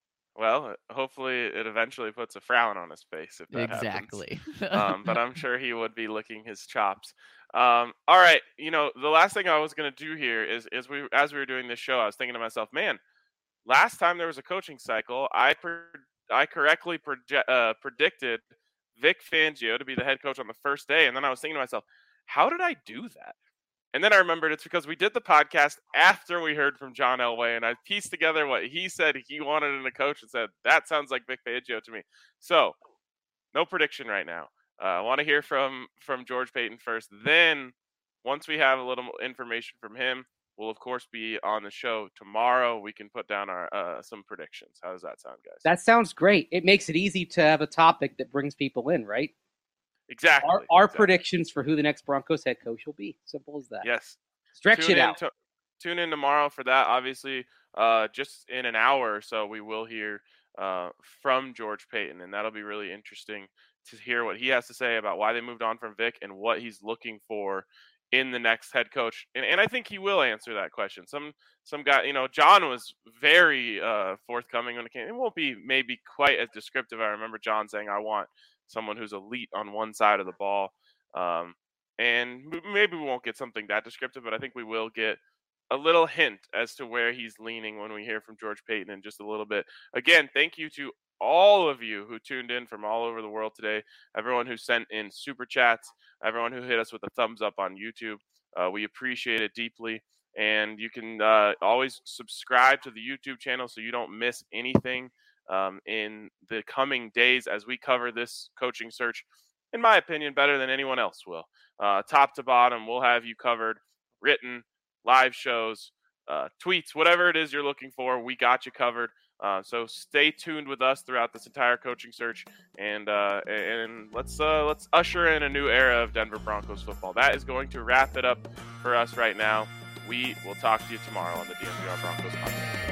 Well, hopefully it eventually puts a frown on his face if that exactly. happens. um, but I'm sure he would be licking his chops. Um, all right, you know, the last thing I was going to do here is, is we as we were doing this show, I was thinking to myself, man, last time there was a coaching cycle, I pre- I correctly proje- uh, predicted Vic Fangio to be the head coach on the first day, and then I was thinking to myself, how did I do that? And then I remembered it's because we did the podcast after we heard from John Elway, and I pieced together what he said he wanted in a coach and said, that sounds like Vic Fangio to me. So, no prediction right now. Uh, I want to hear from, from George Paton first. Then, once we have a little information from him, we'll, of course, be on the show tomorrow. We can put down our uh, some predictions. How does that sound, guys? That sounds great. It makes it easy to have a topic that brings people in, right? Exactly. Our, our exactly. predictions for who the next Broncos head coach will be. Simple as that. Yes. Stretch tune it in out. To, tune in tomorrow for that. Obviously, uh, just in an hour or so, we will hear uh, from George Paton, and that'll be really interesting to hear what he has to say about why they moved on from Vic and what he's looking for in the next head coach. And, and I think he will answer that question. Some some guy, you know, John was very uh, forthcoming when it came. It won't be maybe quite as descriptive. I remember John saying, I want someone who's elite on one side of the ball. Um, and maybe we won't get something that descriptive, but I think we will get a little hint as to where he's leaning when we hear from George Paton in just a little bit. Again, thank you to all of you who tuned in from all over the world today, everyone who sent in super chats, everyone who hit us with a thumbs up on YouTube. Uh, we appreciate it deeply. And you can uh, always subscribe to the YouTube channel so you don't miss anything Um, in the coming days as we cover this coaching search, in my opinion, better than anyone else will. Uh, top to bottom, we'll have you covered, written, live shows, uh, tweets, whatever it is you're looking for, we got you covered. Uh, so stay tuned with us throughout this entire coaching search, and uh, and let's uh, let's usher in a new era of Denver Broncos football. That is going to wrap it up for us right now. We will talk to you tomorrow on the D N V R Broncos podcast.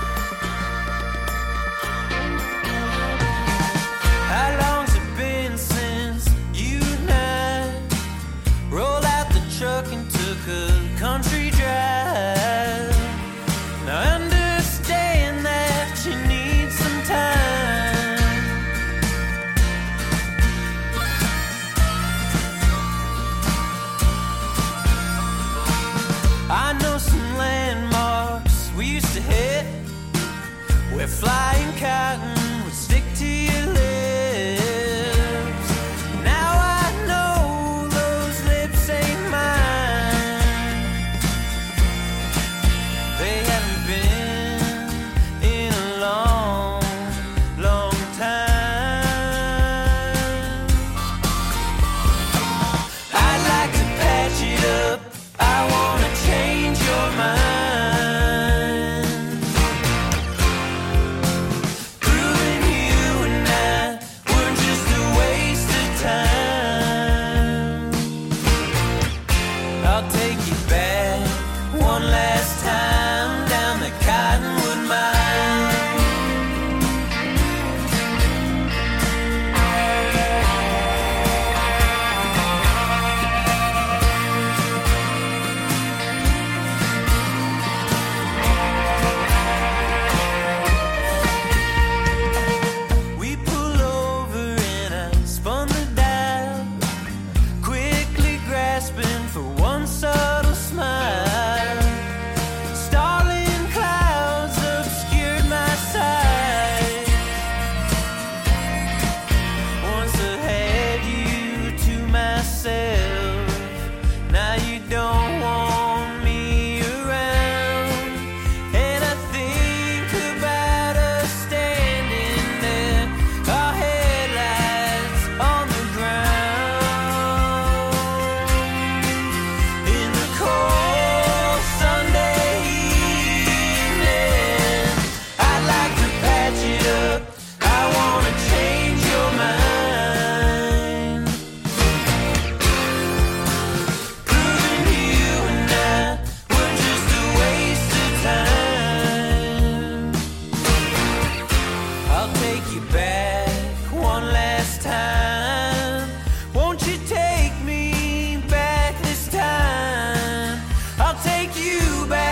How long's it been since you and I rolled out the truck and took a country drive? Now I understand that you need some time. I know some landmarks we used to hit where flying cotton would stick to your lips. Through too bad.